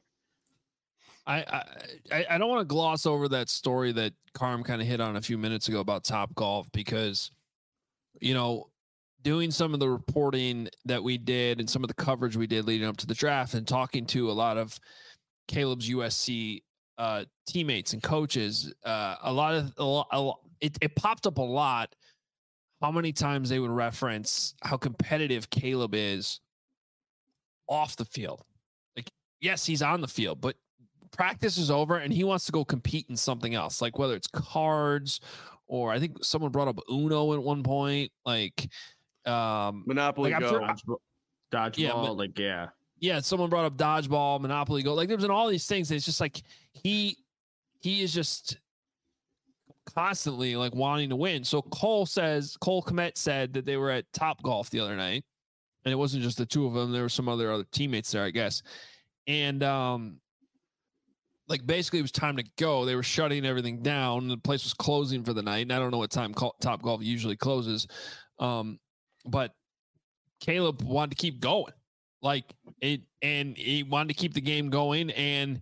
here. I I I don't want to gloss over that story that Carm kind of hit on a few minutes ago about Topgolf because, you know, doing some of the reporting that we did and some of the coverage we did leading up to the draft and talking to a lot of Caleb's U S C uh, teammates and coaches, uh, a lot of, a lot, a lot, it, it popped up a lot how many times they would reference how competitive Caleb is off the field. Like, yes, he's on the field, but practice is over and he wants to go compete in something else, like whether it's cards or I think someone brought up Uno at one point, like, Um, Monopoly like Go, sure, dodgeball, yeah, like yeah, yeah. Someone brought up dodgeball, Monopoly Go. Like there's been all these things. It's just like he he is just constantly like wanting to win. So Cole says Cole Kmet said that they were at Topgolf the other night, and it wasn't just the two of them. There were some other other teammates there, I guess. And um, like basically it was time to go. They were shutting everything down. The place was closing for the night. And I don't know what time Topgolf usually closes. Um, But Caleb wanted to keep going, like it, and he wanted to keep the game going. And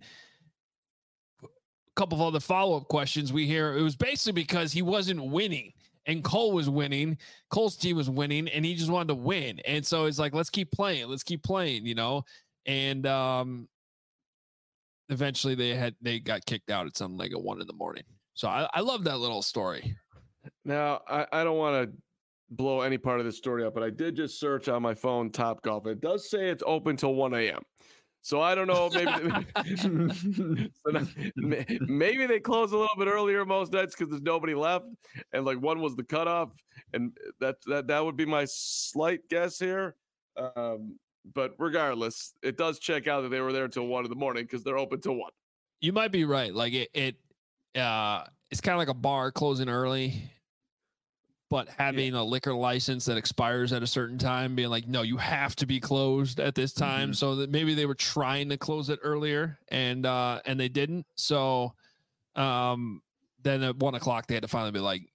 a couple of other follow-up questions we hear, it was basically because he wasn't winning and Cole was winning. Cole's team was winning and he just wanted to win. And so it's like, let's keep playing. Let's keep playing, you know? And um, eventually they had, they got kicked out at something like at one in the morning. So I, I love that little story. Now I, I don't want to blow any part of this story up, but I did just search on my phone Topgolf. It does say it's open till one a.m. So I don't know. Maybe so now, maybe they close a little bit earlier most nights because there's nobody left, and like one was the cutoff, and that that that would be my slight guess here. Um, but regardless, it does check out that they were there till one in the morning because they're open till one. You might be right. Like it, it uh, it's kind of like a bar closing early. But having yeah. a liquor license that expires at a certain time, being like, no, you have to be closed at this time. Mm-hmm. So that maybe they were trying to close it earlier and, uh, and they didn't. So, um, then at one o'clock they had to finally be like,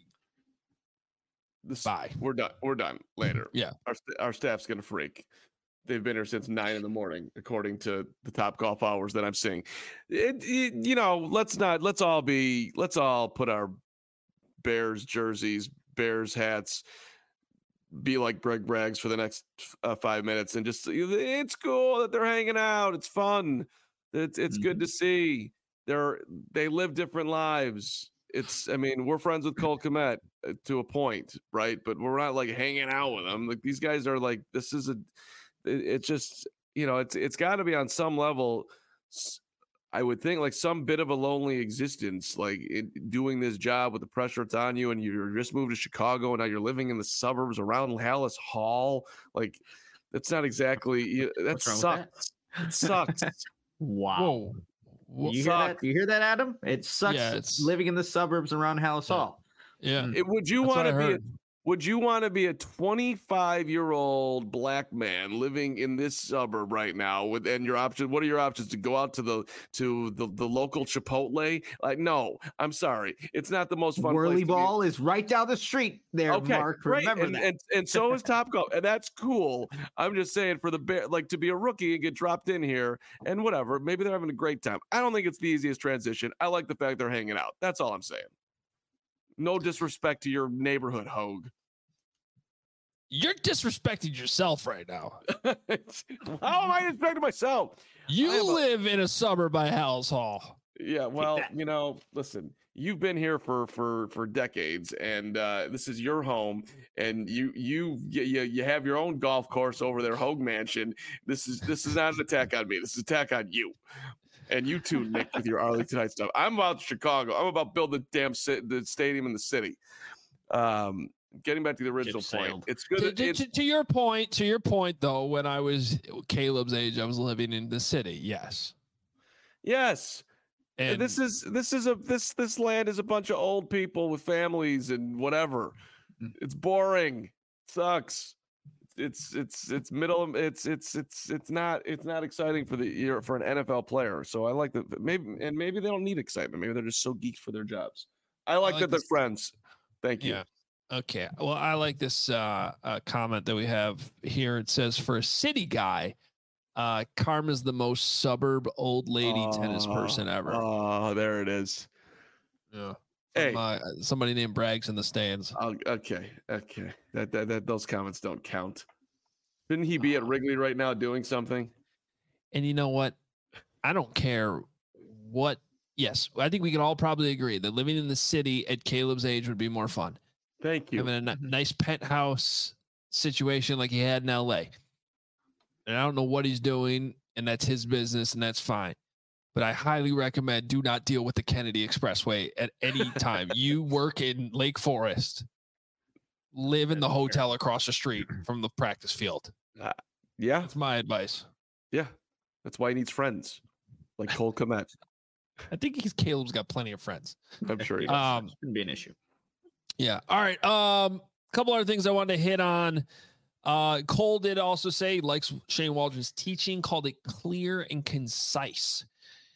this, bye. We're done. We're done later. Yeah. Our, our staff's going to freak. They've been here since nine in the morning, according to the Topgolf hours that I'm seeing. It, it, you know, let's not, let's all be, let's all put our Bears jerseys, Bears hats, be like Greg Braggs for the next uh, five minutes and just, it's cool that they're hanging out. It's fun. It's it's mm-hmm. good to see. They're, they live different lives. it's. I mean, we're friends with Cole Kmet to a point, right? But we're not like hanging out with them. Like these guys are like. This is a. It, it's just you know it's it's got to be on some level. I would think like some bit of a lonely existence, like it, doing this job with the pressure it's on you, and you just moved to Chicago, and now you're living in the suburbs around Hallis Hall. Like that's not exactly. You, that sucks. That? It sucks. Wow. Whoa. You hear that? You hear that, Adam? It sucks yeah, living in the suburbs around Hallis yeah. Hall. Yeah. It, would you want to be? A, would you want to be a twenty-five-year-old black man living in this suburb right now? With and your options? What are your options to go out to the to the, the local Chipotle? Like, no, I'm sorry, it's not the most fun. Whirly Ball is right down the street there, okay, Mark. Right. Remember and, that. And, and so is Topgolf, and that's cool. I'm just saying for the bear, like to be a rookie and get dropped in here and whatever. Maybe they're having a great time. I don't think it's the easiest transition. I like the fact they're hanging out. That's all I'm saying. No disrespect to your neighborhood, Hogue. You're disrespecting yourself right now. How am I disrespecting myself? You live a- in a suburb by Hallis Hall. Yeah, well, you know, listen, you've been here for for for decades, and uh, this is your home, and you you you you have your own golf course over there, Hogue Mansion. This is this is not an attack on me. This is an attack on you. And you too, Nick, with your Arlington Heights stuff. I'm about Chicago. I'm about building the damn sit- the stadium in the city. Um, getting back to the original Chip point, sailed. it's good. To, That to, it's, to, to your point, to your point, though, when I was Caleb's age, I was living in the city. Yes, yes. And And this is this is a this this land is a bunch of old people with families and whatever. It's boring. Sucks. It's it's it's middle. It's it's it's it's not it's not exciting for the year for an N F L player. So I like that. Maybe and maybe they don't need excitement. Maybe they're just so geeked for their jobs. I like, like that they're this- friends. Thank you. yeah. Okay. Well, I like this uh, uh, comment that we have here. It says, for a city guy, uh, Karma's the most suburb old lady tennis person ever. Oh, there it is. Yeah. Hey. From, uh, somebody named Braggs in the stands. Oh, okay, okay. That, that that those comments don't count. Shouldn't he be at Wrigley right now doing something? And you know what? I don't care what. Yes, I think we can all probably agree that living in the city at Caleb's age would be more fun. Thank you. Having a n- nice penthouse situation like he had in L A. And I don't know what he's doing, and that's his business, and that's fine. But I highly recommend do not deal with the Kennedy Expressway at any time. You work in Lake Forest, live in the hotel across the street from the practice field. Uh, yeah, That's my advice. yeah. That's why he needs friends like Cole Kmet. I think he's Caleb's got plenty of friends. I'm sure he does. Um, Shouldn't be an issue. Yeah. All right. Um, couple other things I wanted to hit on. Uh, Cole did also say he likes Shane Waldron's teaching, called it clear and concise.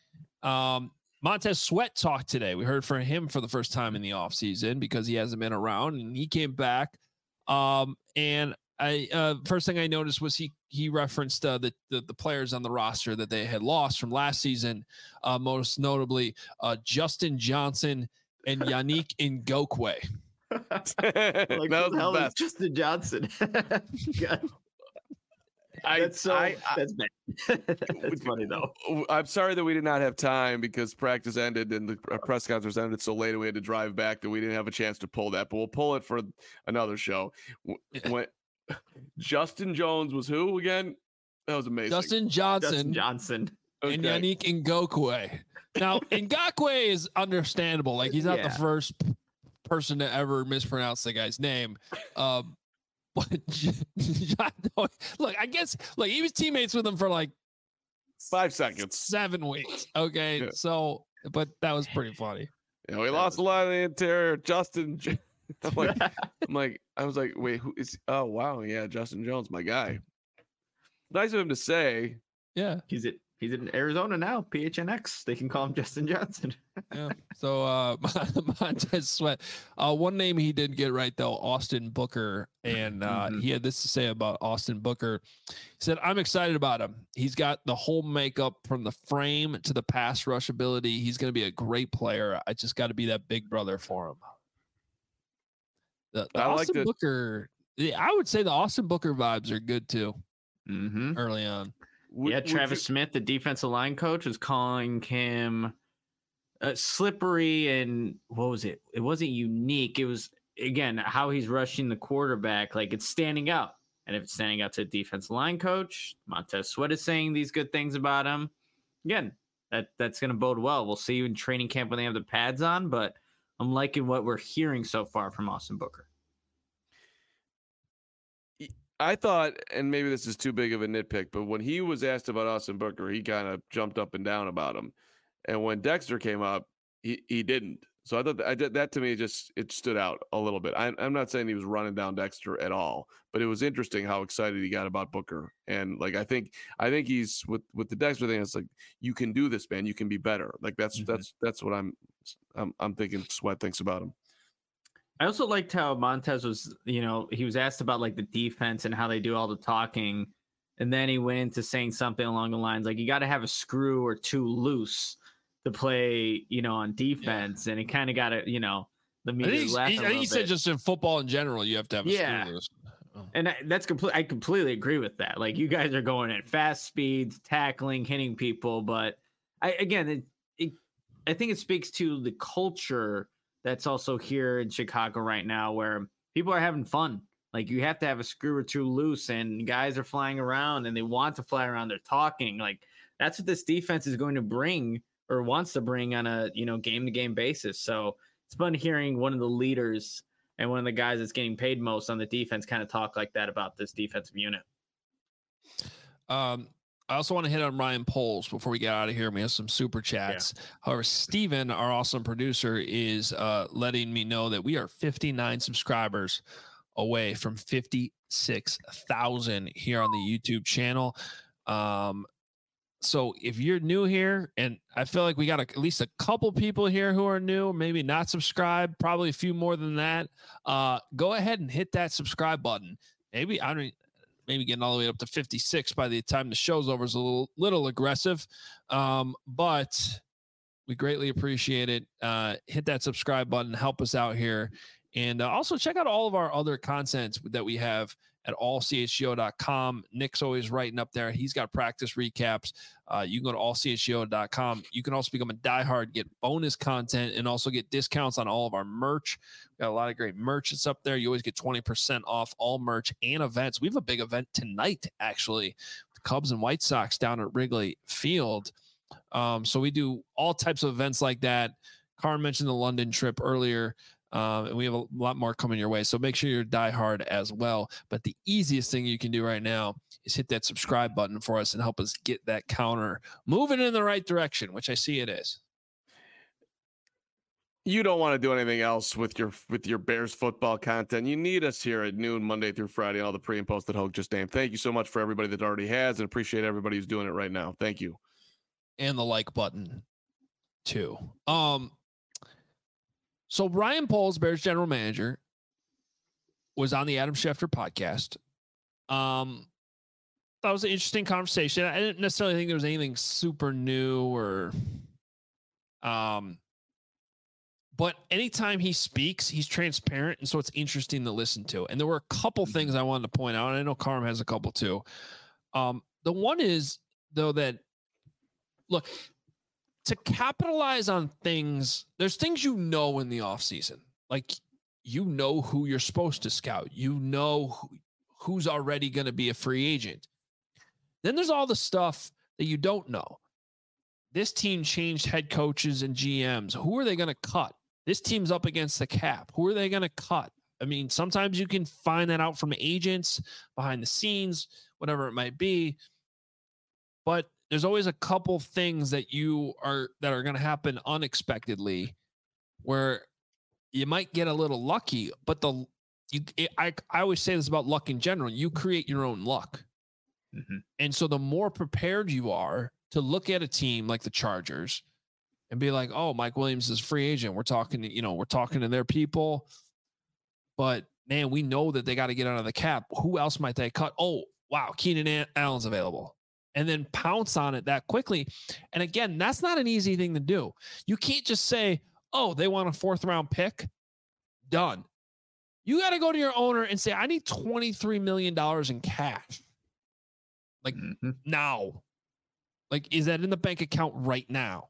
Um, Montez Sweat talked today. We heard from him for the first time in the offseason because he hasn't been around, and he came back. Um, and I uh, first thing I noticed was he he referenced uh, the, the the players on the roster that they had lost from last season, uh, most notably uh, Justin Johnson and Yannick Ngokwe. Like, that who was the the hell is best. Justin Johnson? God, I, that's so I, I, that's bad. That's funny though. I'm sorry that we did not have time because practice ended and the press conference ended so late and we had to drive back that we didn't have a chance to pull that. But we'll pull it for another show. When Justin Jones was who again? That was amazing. Justin Johnson, Justin Johnson. Okay. and Yannick Ngokwe. Now, Ngokwe is understandable. Like, he's not Yeah. the first p- person to ever mispronounce the guy's name. Um, but look, I guess, like, he was teammates with him for like Five seconds. seven weeks. Okay. Yeah. So, but that was pretty funny. Yeah, we lost a lot of the interior. Justin. J- I'm like, I'm like, I was like, wait, who is? Oh, wow, yeah, Justin Jones, my guy. Nice of him to say. Yeah. He's at he's in Arizona now. P H N X. They can call him Justin Johnson. Yeah. So uh Montez Sweat. Uh one name he did get right though, Austin Booker. And uh Mhm. he had this to say about Austin Booker. He said, I'm excited about him. He's got the whole makeup from the frame to the pass rush ability. He's gonna be a great player. I just gotta be that big brother for him. The, the I like Austin the- Booker, yeah, I would say the Austin Booker vibes are good too Mm-hmm. early on. Would- Yeah, would Travis you- Smith, the defensive line coach, was calling him uh, slippery and what was it? It wasn't unique. It was, again, how he's rushing the quarterback. Like, it's standing out. And if it's standing out to the defensive line coach, Montez Sweat is saying these good things about him. Again, that, that's going to bode well. We'll see you in training camp when they have the pads on, but I'm liking what we're hearing so far from Austin Booker. I thought, and maybe this is too big of a nitpick, but when he was asked about Austin Booker, he kind of jumped up and down about him. And when Dexter came up, he, he didn't. So I thought that, I did, that to me just it stood out a little bit. I, I'm not saying he was running down Dexter at all, but it was interesting how excited he got about Booker. And like I think I think he's with with the Dexter thing. It's like you can do this, man. You can be better. Like that's mm-hmm. that's that's what I'm I'm I'm thinking. Sweat thinks about him. I also liked how Montez was, you know, he was asked about like the defense and how they do all the talking. And then he went into saying something along the lines like, you got to have a screw or two loose to play, you know, on defense. Yeah. And it kind of got to, you know, the media laughed. I think he said just in football in general, you have to have a yeah. screw loose. Oh. And that's complete. I completely agree with that. Like you guys are going at fast speeds, tackling, hitting people. But I, again, it, it, I think it speaks to the culture that's also here in Chicago right now where people are having fun. Like you have to have a screw or two loose and guys are flying around and they want to fly around. They're talking. Like that's what this defense is going to bring or wants to bring on a, you know, game to game basis. So it's fun hearing one of the leaders and one of the guys that's getting paid most on the defense kind of talk like that about this defensive unit. Um, I also want to hit on Ryan Poles before we get out of here. We have some super chats. Yeah. However, Steven, our awesome producer, is uh, letting me know that we are fifty-nine subscribers away from fifty-six thousand here on the YouTube channel. Um, so if you're new here, and I feel like we got a, at least a couple people here who are new, maybe not subscribed, probably a few more than that, uh, go ahead and hit that subscribe button. Maybe, I don't maybe getting all the way up to fifty-six by the time the show's over is a little, little aggressive. Um, but we greatly appreciate it. Uh, hit that subscribe button, help us out here. And uh, also check out all of our other content that we have at all c h g o dot com. Nick's always writing up there. He's got practice recaps. Uh, you can go to all c h g o dot com. You can also become a diehard, get bonus content, and also get discounts on all of our merch. We got a lot of great merch that's up there. You always get twenty percent off all merch and events. We have a big event tonight, actually, the Cubs and White Sox down at Wrigley Field. Um, so we do all types of events like that. Carm mentioned the London trip earlier. Um, and we have a lot more coming your way. So make sure you're diehard as well. But the easiest thing you can do right now is hit that subscribe button for us and help us get that counter moving in the right direction, which I see it is. You don't want to do anything else with your with your Bears football content. You need us here at noon, Monday through Friday, all the pre and post that Hogue just named. Thank you so much for everybody that already has, and appreciate everybody who's doing it right now. Thank you. And the like button too. Um, So Ryan Poles, Bears general manager, was on the Adam Schefter podcast. Um, that was an interesting conversation. I didn't necessarily think there was anything super new or, um, but anytime he speaks, he's transparent, and so it's interesting to listen to. And there were a couple things I wanted to point out, and I know Carm has a couple too. Um, the one is though that look. To capitalize on things, there's things you know in the offseason. Like, you know who you're supposed to scout. You know who, who's already going to be a free agent. Then there's all the stuff that you don't know. This team changed head coaches and G Ms. Who are they going to cut? This team's up against the cap. Who are they going to cut? I mean, sometimes you can find that out from agents, behind the scenes, whatever it might be. But there's always a couple things that you are that are going to happen unexpectedly where you might get a little lucky, but the you it, I I always say this about luck in general, you create your own luck. Mm-hmm. And so the more prepared you are to look at a team like the Chargers and be like, "Oh, Mike Williams is a free agent. We're talking to, you know, we're talking to their people, but man, we know that they got to get out of the cap. Who else might they cut? Oh, wow, Keenan Allen's available." And then pounce on it that quickly. And again, that's not an easy thing to do. You can't just say, oh, they want a fourth round pick. Done. You got to go to your owner and say, I need twenty-three million dollars in cash. Like mm-hmm. now. Like, is that in the bank account right now?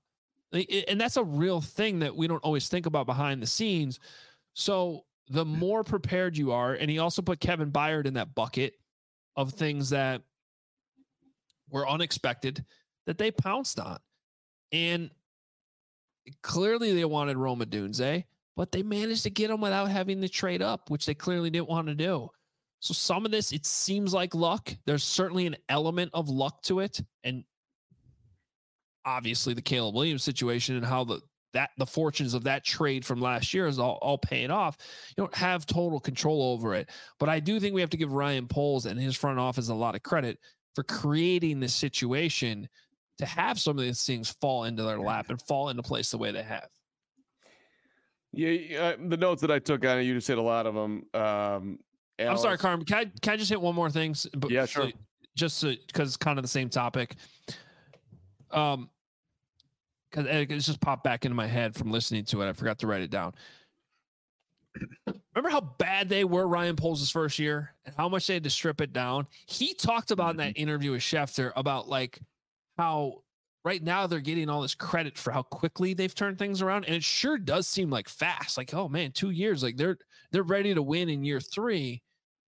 And that's a real thing that we don't always think about behind the scenes. So the more prepared you are, and he also put Kevin Byard in that bucket of things that were unexpected that they pounced on. And clearly they wanted Rome Odunze, but they managed to get him without having to trade up, which they clearly didn't want to do. So some of this, it seems like luck. There's certainly an element of luck to it. And obviously the Caleb Williams situation and how the that the fortunes of that trade from last year is all, all paying off. You don't have total control over it. But I do think we have to give Ryan Poles and his front office a lot of credit for creating this situation to have some of these things fall into their lap and fall into place the way they have. Yeah, uh, the notes that I took on it, you just hit a lot of them. Um, I'm sorry, Carm. Can I, can I just hit one more thing? But yeah, sure. Just because it's kind of the same topic. Um, because it's just popped back into my head from listening to it. I forgot to write it down. Remember how bad they were Ryan Poles' first year and how much they had to strip it down? He talked about in that interview with Schefter about like how right now they're getting all this credit for how quickly they've turned things around. And it sure does seem like fast. Like, oh man, two years, like they're, they're ready to win in year three.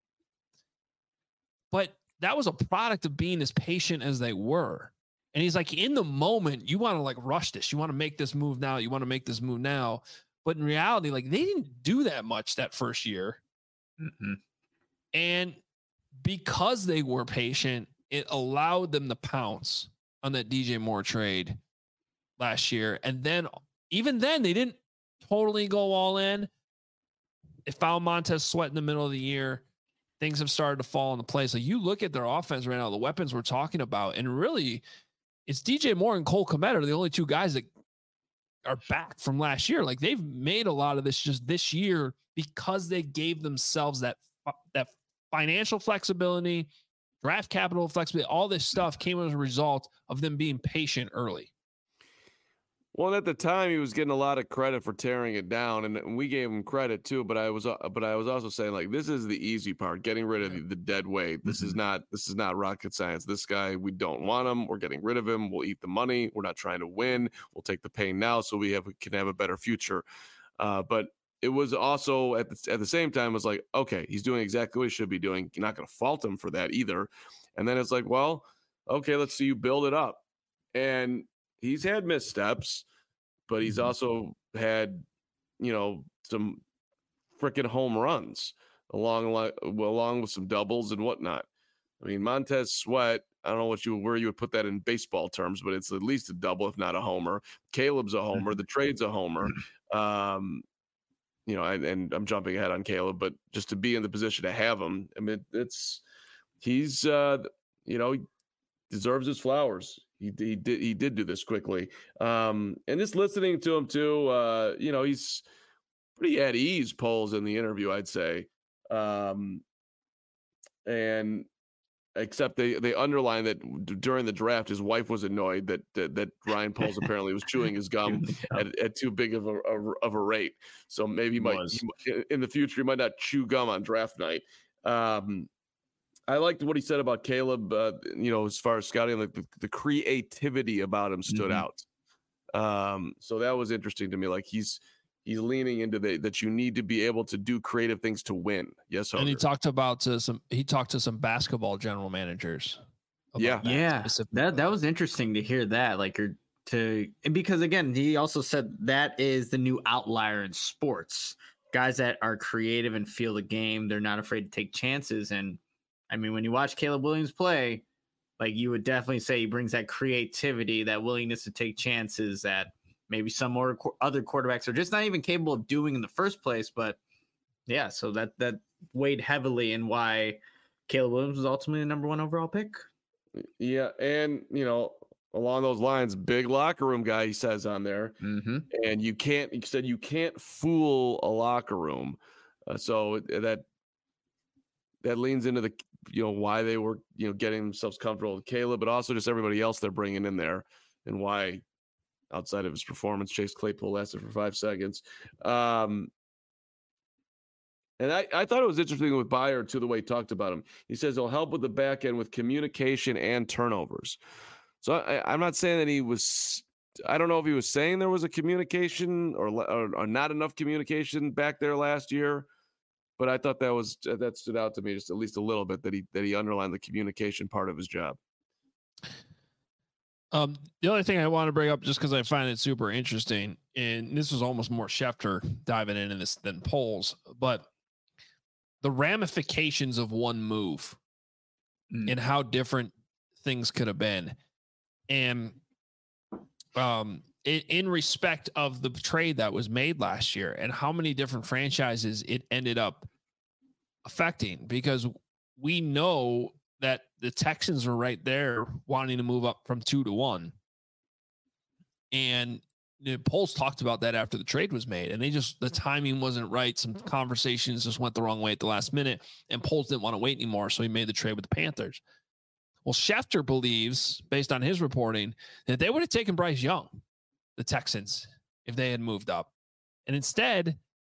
But that was a product of being as patient as they were. And he's like, in the moment, you want to like rush this. You want to make this move now. You want to make this move now. But in reality, like they didn't do that much that first year. Mm-hmm. And because they were patient, it allowed them to pounce on that D J Moore trade last year. And then even then, they didn't totally go all in. It found Montez Sweat in the middle of the year. Things have started to fall into place. Like you look at their offense right now, the weapons we're talking about, and really it's D J Moore and Cole Kmet are the only two guys that are back from last year. Like they've made a lot of this just this year because they gave themselves that, that financial flexibility, draft capital flexibility, all this stuff came as a result of them being patient early. Well, at the time he was getting a lot of credit for tearing it down, and we gave him credit too. But I was, uh, but I was also saying like this is the easy part, getting rid of the, the dead weight. This mm-hmm. is not, this is not rocket science. This guy, we don't want him. We're getting rid of him. We'll eat the money. We're not trying to win. We'll take the pain now, so we have can have a better future. Uh, but it was also at the, at the same time, it was like, okay, he's doing exactly what he should be doing. You're not going to fault him for that either. And then it's like, well, okay, let's see you build it up. And he's had missteps, but he's also had, you know, some freaking home runs along along with some doubles and whatnot. I mean, Montez Sweat, I don't know what you where you would put that in baseball terms, but it's at least a double, if not a homer. Caleb's a homer. The trade's a homer. Um, you know, and, and I'm jumping ahead on Caleb, but just to be in the position to have him, I mean, it's he's uh, you know, he deserves his flowers. He, he did he did do this quickly. Um, and just listening to him too, uh, you know, he's pretty at ease, Poles, in the interview, I'd say. Um, and except they they underline that d- during the draft, his wife was annoyed that that, that Ryan Poles apparently was chewing his gum at, at too big of a, a of a rate. So maybe he might he, in the future he might not chew gum on draft night. Um, I liked what he said about Caleb, uh, you know, as far as scouting, like the, the creativity about him stood mm-hmm. out. Um, so that was interesting to me. Like he's he's leaning into the that you need to be able to do creative things to win. Yes, Hoger. And he talked about uh, some. He talked to some basketball general managers. Yeah, that yeah, that that was interesting to hear that. Like, or to because again, he also said that is the new outlier in sports. Guys that are creative and feel the game. They're not afraid to take chances and. I mean, when you watch Caleb Williams play, like you would definitely say he brings that creativity, that willingness to take chances that maybe some more other quarterbacks are just not even capable of doing in the first place. But yeah, so that that weighed heavily in why Caleb Williams was ultimately the number one overall pick. Yeah, and you know, along those lines, big locker room guy, he says on there, mm-hmm. and you can't. He said you can't fool a locker room, uh, so that that leans into the. You know, why they were, you know, getting themselves comfortable with Caleb, but also just everybody else they're bringing in there and why outside of his performance, Chase Claypool lasted for five seconds. Um, and I, I thought it was interesting with Byard too, the way he talked about him. He says he'll help with the back end with communication and turnovers. So I, I'm not saying that he was I don't know if he was saying there was a communication or, or, or not enough communication back there last year, but I thought that was that stood out to me just at least a little bit that he that he underlined the communication part of his job. Um, the other thing I want to bring up, just because I find it super interesting, and this was almost more Schefter diving into this than Poles, but the ramifications of one move mm. and how different things could have been. And um, in, in respect of the trade that was made last year and how many different franchises it ended up affecting, because we know that the Texans were right there wanting to move up from two to one. And the Poles talked about that after the trade was made, and they just, the timing wasn't right. Some conversations just went the wrong way at the last minute, and Poles didn't want to wait anymore. So he made the trade with the Panthers. Well, Schefter believes, based on his reporting, that they would have taken Bryce Young, the Texans, if they had moved up. And instead,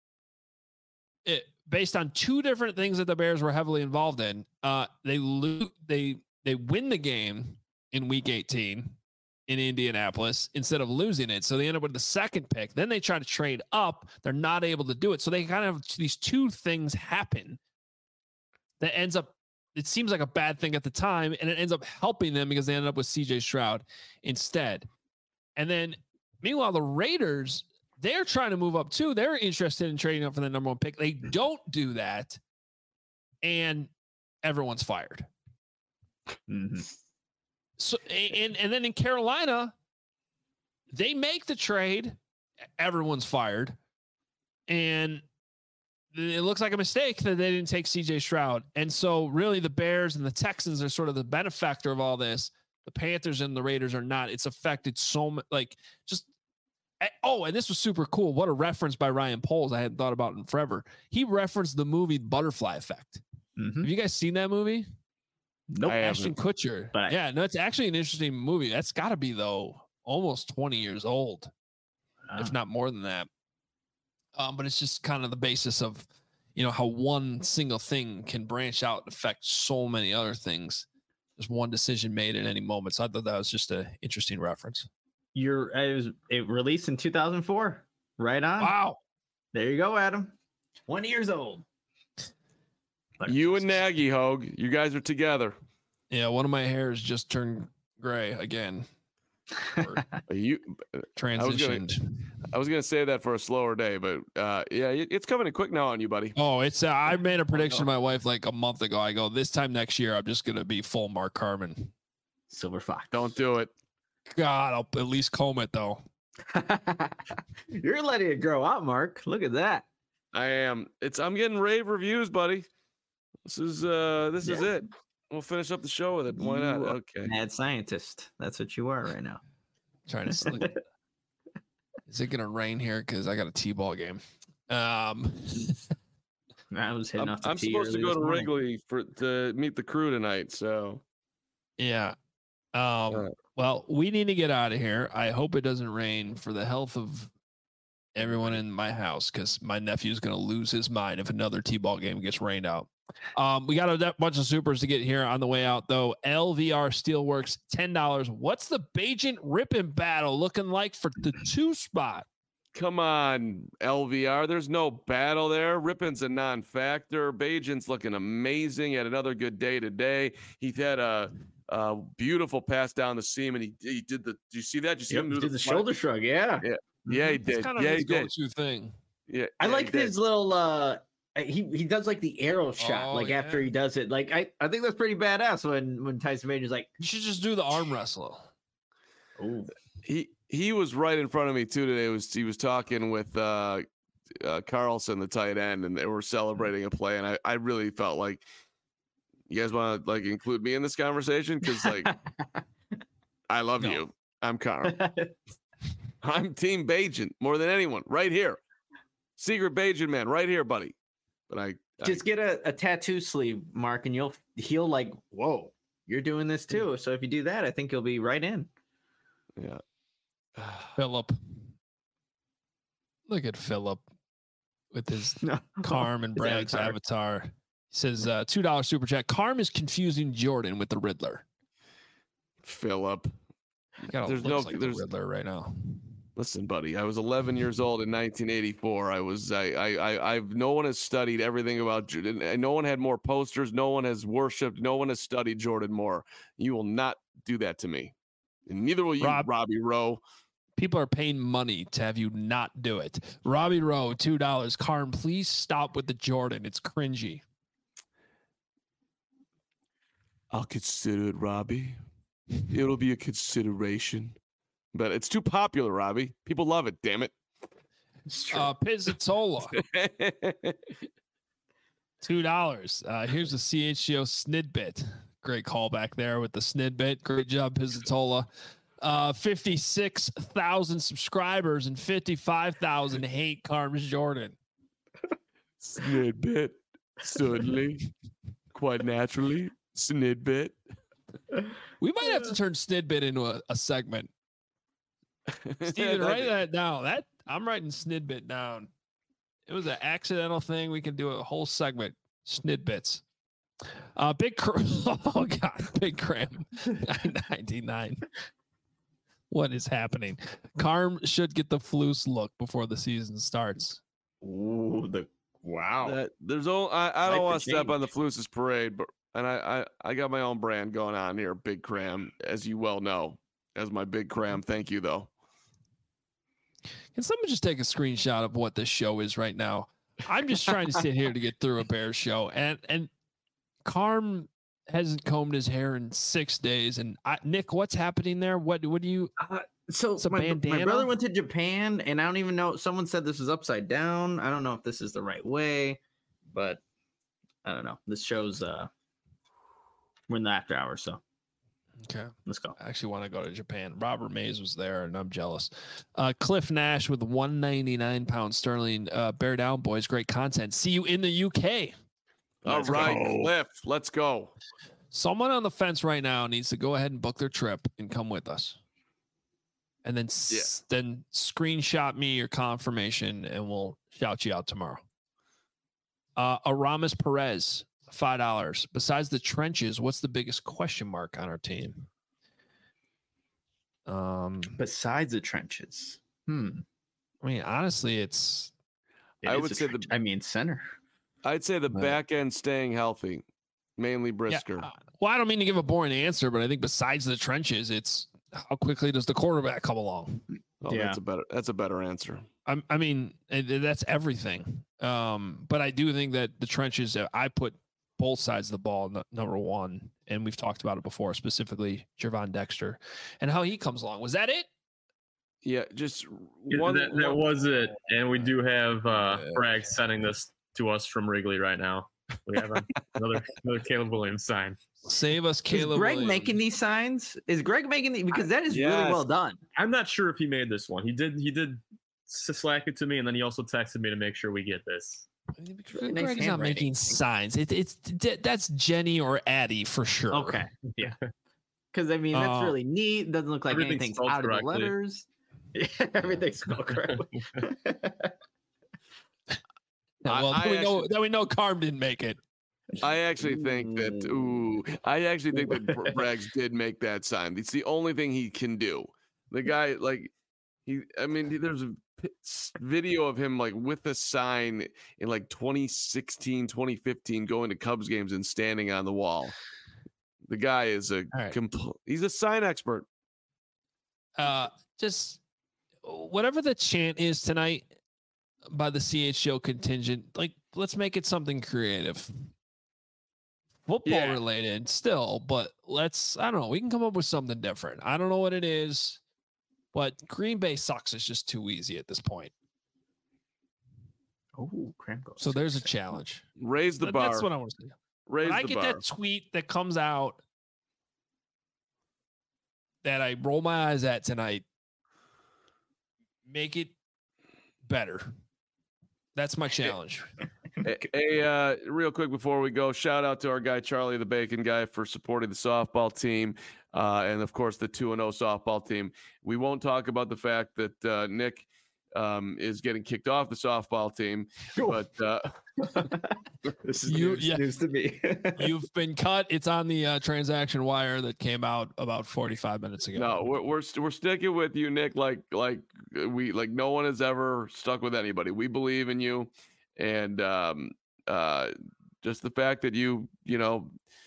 it, based on two different things that the Bears were heavily involved in, uh, they lo- they they win the game in Week eighteen in Indianapolis instead of losing it. So they end up with the second pick. Then they try to trade up. They're not able to do it. So they kind of have these two things happen that ends up, it seems like a bad thing at the time, and it ends up helping them because they ended up with C J Stroud instead. And then meanwhile, the Raiders, they're trying to move up too. They're interested in trading up for the number one pick. They don't do that, and everyone's fired. Mm-hmm. So, and, and then in Carolina, they make the trade. Everyone's fired. And it looks like a mistake that they didn't take C J Stroud. And so really the Bears and the Texans are sort of the benefactor of all this. The Panthers and the Raiders are not. It's affected so much, like just, oh, and this was super cool. What a reference by Ryan Poles I hadn't thought about in forever. He referenced the movie Butterfly Effect. Mm-hmm. Have you guys seen that movie? Nope. Ashton Kutcher. But I, yeah, no, it's actually an interesting movie. That's got to be, though, almost twenty years old, uh, if not more than that. Um, but it's just kind of the basis of, you know, how one single thing can branch out and affect so many other things. There's one decision made at any moment. So I thought that was just an interesting reference. You're, it was it released in two thousand four. Right on. Wow. There you go, Adam. twenty years old. You and Nagy, Hogue, you guys are together. Yeah, one of my hairs just turned gray again. you transitioned. I was, gonna, I was gonna say that for a slower day, but uh, yeah, it's coming in quick now on you, buddy. Oh, it's. Uh, I made a prediction to my wife like a month ago. I go, this time next year, I'm just gonna be full Mark Carman. Silver Fox. Don't do it. God, I'll at least comb it though. You're letting it grow out, Mark. Look at that. I am. It's. I'm getting rave reviews, buddy. This is uh this yeah. is it. We'll finish up the show with it. Why you not? Okay. Mad scientist. That's what you are right now. Trying to sleep. Is it gonna rain here? Because I got a T-ball game. Um I was hitting I'm, off the I'm tee supposed to go to morning. Wrigley for to meet the crew tonight, so yeah. Um uh, well, we need to get out of here. I hope it doesn't rain for the health of everyone in my house, because my nephew's going to lose his mind if another T-ball game gets rained out. Um, we got a bunch of supers to get here on the way out, though. L V R Steelworks, ten dollars. What's the Bagent Rippin battle looking like for the two spot? Come on, L V R. There's no battle there. Rippin's a non-factor. Bagent's looking amazing. He had another good day today. He had a, a beautiful pass down the seam, and he, he did the. Do you see that? Did you see yep, him do did the, the shoulder shrug? Yeah. Yeah. Yeah, he did. Kind of yeah, his he did. Go-to thing. Yeah, I yeah, like his little. uh He he does like the arrow shot, oh, like yeah. after he does it. Like I, I think that's pretty badass. When when Tyson Bagent's like, you should just do the arm wrestle. Oh, he he was right in front of me too today. It was he was talking with uh, uh, Carlson, the tight end, and they were celebrating a play, and I, I really felt like you guys want to like include me in this conversation because like I love no. you. I'm Carl. I'm Team Bagent more than anyone right here. Secret Bagent man right here, buddy. But I just I, get a, a tattoo sleeve, Mark, and you'll he'll like, whoa, you're doing this too. So if you do that, I think you'll be right in. Yeah. Philip. Look at Philip with his Carm and Bragg's avatar. avatar. He says uh, two dollars super chat. Carm is confusing Jordan with the Riddler. Philip. You got There's there's no- like there's- the Riddler right now. Listen, buddy, I was eleven years old in nineteen eighty-four. I was, I, I, I, I've, no one has studied everything about Jordan. No one had more posters. No one has worshipped. No one has studied Jordan more. You will not do that to me. And neither will you, Rob. Robbie Rowe. People are paying money to have you not do it. Robbie Rowe, two dollars. Carm, please stop with the Jordan. It's cringy. I'll consider it, Robbie. It'll be a consideration. But it's too popular, Robbie. People love it, damn it. It's true. Uh, Pizzatola, two dollars. Uh, here's a C H G O snidbit. Great callback there with the snidbit. Great job, Pizzatola. Uh, fifty-six thousand subscribers and fifty-five thousand hate Carms Jordan. Snidbit. Certainly. Quite naturally. Snidbit. We might have to turn snidbit into a, a segment. Steven, write that down. That I'm writing snidbit down. It was an accidental thing. We can do a whole segment. Snidbits. Uh, big. Cr- oh God, big cram. nine ninety-nine. What is happening? Carm should get the Floose look before the season starts. Ooh, the wow. That, there's only, I, I don't Like want the to step on the change. Fluce's parade, but and I, I I got my own brand going on here, Big Cram, as you well know, as my Big Cram. Thank you though. Can someone just take a screenshot of what this show is right now? I'm just trying to sit here to get through a Bears show, and and Carm hasn't combed his hair in six days. And I, Nick, what's happening there? What what do you? Uh, so It's a my, my bandana? brother went to Japan, and I don't even know. Someone said this was upside down. I don't know if this is the right way, but I don't know. This shows uh we're in the after hours, so Okay, let's go. I actually want to go to Japan. Robert Mays was there, and I'm jealous. Uh, Cliff Nash with one ninety-nine pound sterling. Uh, bear down, boys. Great content. See you in the U K. All Let's right, go. Cliff, let's go. Someone on the fence right now needs to go ahead and book their trip and come with us. And then s- then screenshot me your confirmation, and we'll shout you out tomorrow. Uh, Aramis Perez, five dollars. Besides the trenches, what's the biggest question mark on our team? Um, Besides the trenches, hmm. I mean, honestly, it's It I is would a say the- trench. I mean center. I'd say the Right. back end staying healthy, mainly Brisker. Yeah, uh, well, I don't mean to give a boring answer, but I think besides the trenches, it's how quickly does the quarterback come along? oh, yeah. that's a better. That's a better answer. I, I mean, it- it- that's everything. Um, but I do think that the trenches, uh, I put both sides of the ball n- number one, and we've talked about it before, specifically Jervon Dexter and how he comes along. Was that it? Yeah, just Yeah, one. that, that one- was it. And we do have uh, Yeah. Bragg sending this to us from Wrigley right now. We have a- another another Caleb Williams sign. Save us, Caleb. is Greg Williams. making these signs? Is Greg making these? Because that is really Yes. well done. I'm not sure if he made this one. He did. He did s- slack it to me, and then he also texted me to make sure we get this. Really nice Greg's not handwriting. making signs. It, it's that's Jenny or Addie for sure. Okay, yeah. Because I mean, that's Uh, really neat. Doesn't look like everything's anything's spelled out of the correctly. letters. Yeah, everything's spelled correctly. Yeah, well, I- then we I know actually- that we know Carm didn't make it. I actually think that. Ooh, I actually think that Br- Braggs did make that sign. It's the only thing he can do. The guy, like, he. I mean, there's a p- s- video of him like with a sign in like twenty sixteen, twenty fifteen, going to Cubs games and standing on the wall. The guy is a right. compl- he's a sign expert. Uh, just whatever the chant is tonight by the C H O contingent, like let's make it something creative. Football Yeah. related still, but let's I don't know, we can come up with something different. I don't know what it is, but Green Bay sucks. It's just too easy at this point. Oh, cramp goes. So there's a challenge. Raise the That- bar. That's what I want to say. Raise When I the get bar. that tweet that comes out that I roll my eyes at tonight, make it better. That's my challenge. Hey, hey, uh, real quick before we go, shout out to our guy Charlie the Bacon Guy for supporting the softball team, uh, and of course the two and zero softball team. We won't talk about the fact that uh, Nick um, is getting kicked off the softball team. But uh, This is You- news, yeah. news to me. You've been cut. It's on the uh, transaction wire that came out about forty-five minutes ago. no, we're we're, st- we're sticking with you, Nick. Like like we like no one has ever stuck with anybody. We believe in you, and um, uh, just the fact that you you know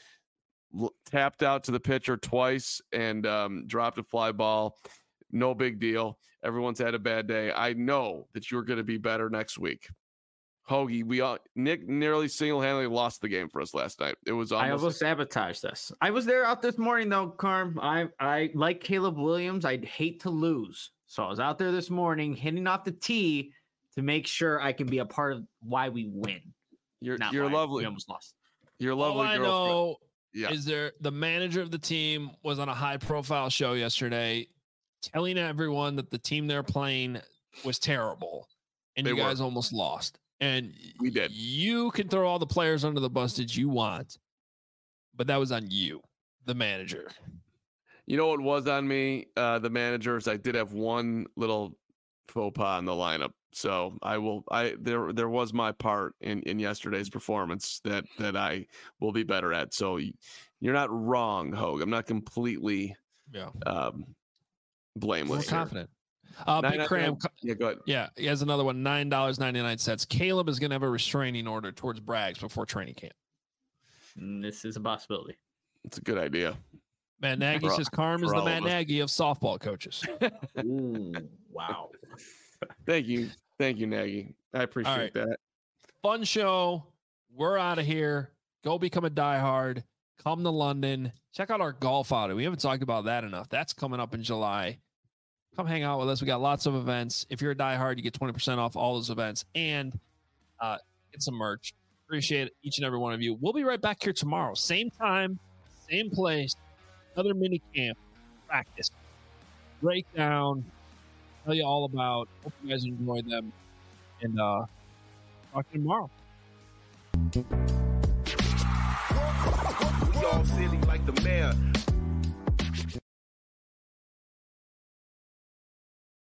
l- tapped out to the pitcher twice and um, dropped a fly ball, no big deal. Everyone's had a bad day. I know that you're going to be better next week. Hoagie, we all Nick nearly single-handedly lost the game for us last night. It was I almost almost sabotaged this. I was there out this morning though, Carm. I I like Caleb Williams. I'd hate to lose, so I was out there this morning hitting off the tee to make sure I can be a part of why we win. you're Not you're why lovely. We almost lost. You're All lovely I girlfriend. know Yeah. is there the manager of the team was on a high-profile show yesterday, telling everyone that the team they're playing was terrible, and They you were. guys almost lost. And We did. You can throw all the players under the bus that you want, but that was on you, the manager. You know what was on me? Uh, the managers. I did have one little faux pas in the lineup, so I will. I there there was my part in, in yesterday's performance that that I will be better at. So y- you're not wrong, Hogue. I'm not completely Yeah, um, we're blameless. here. confident. Uh, Nine- Big nine- Cram, nine- Yeah, go ahead. yeah, he has another one. Nine dollars ninety nine cents. Caleb is going to have a restraining order towards Braggs before training camp. Mm, This is a possibility. It's a good idea. Matt Nagy For- says Carm is for the all of Matt us. Nagy of softball coaches. Ooh, wow. Thank you, thank you, Nagy. I appreciate right. that. Fun show. We're out of here. Go become a diehard. Come to London. Check out our golf outing. We haven't talked about that enough. That's coming up in July. Come hang out with us. We got lots of events. If you're a diehard, you get twenty percent off all those events and uh, get some merch. Appreciate each and every one of you. We'll be right back here tomorrow. Same time, same place. Another mini camp. Practice. Breakdown. Tell you all about. Hope you guys enjoy them. And uh, talk to you tomorrow. We all silly like the mayor.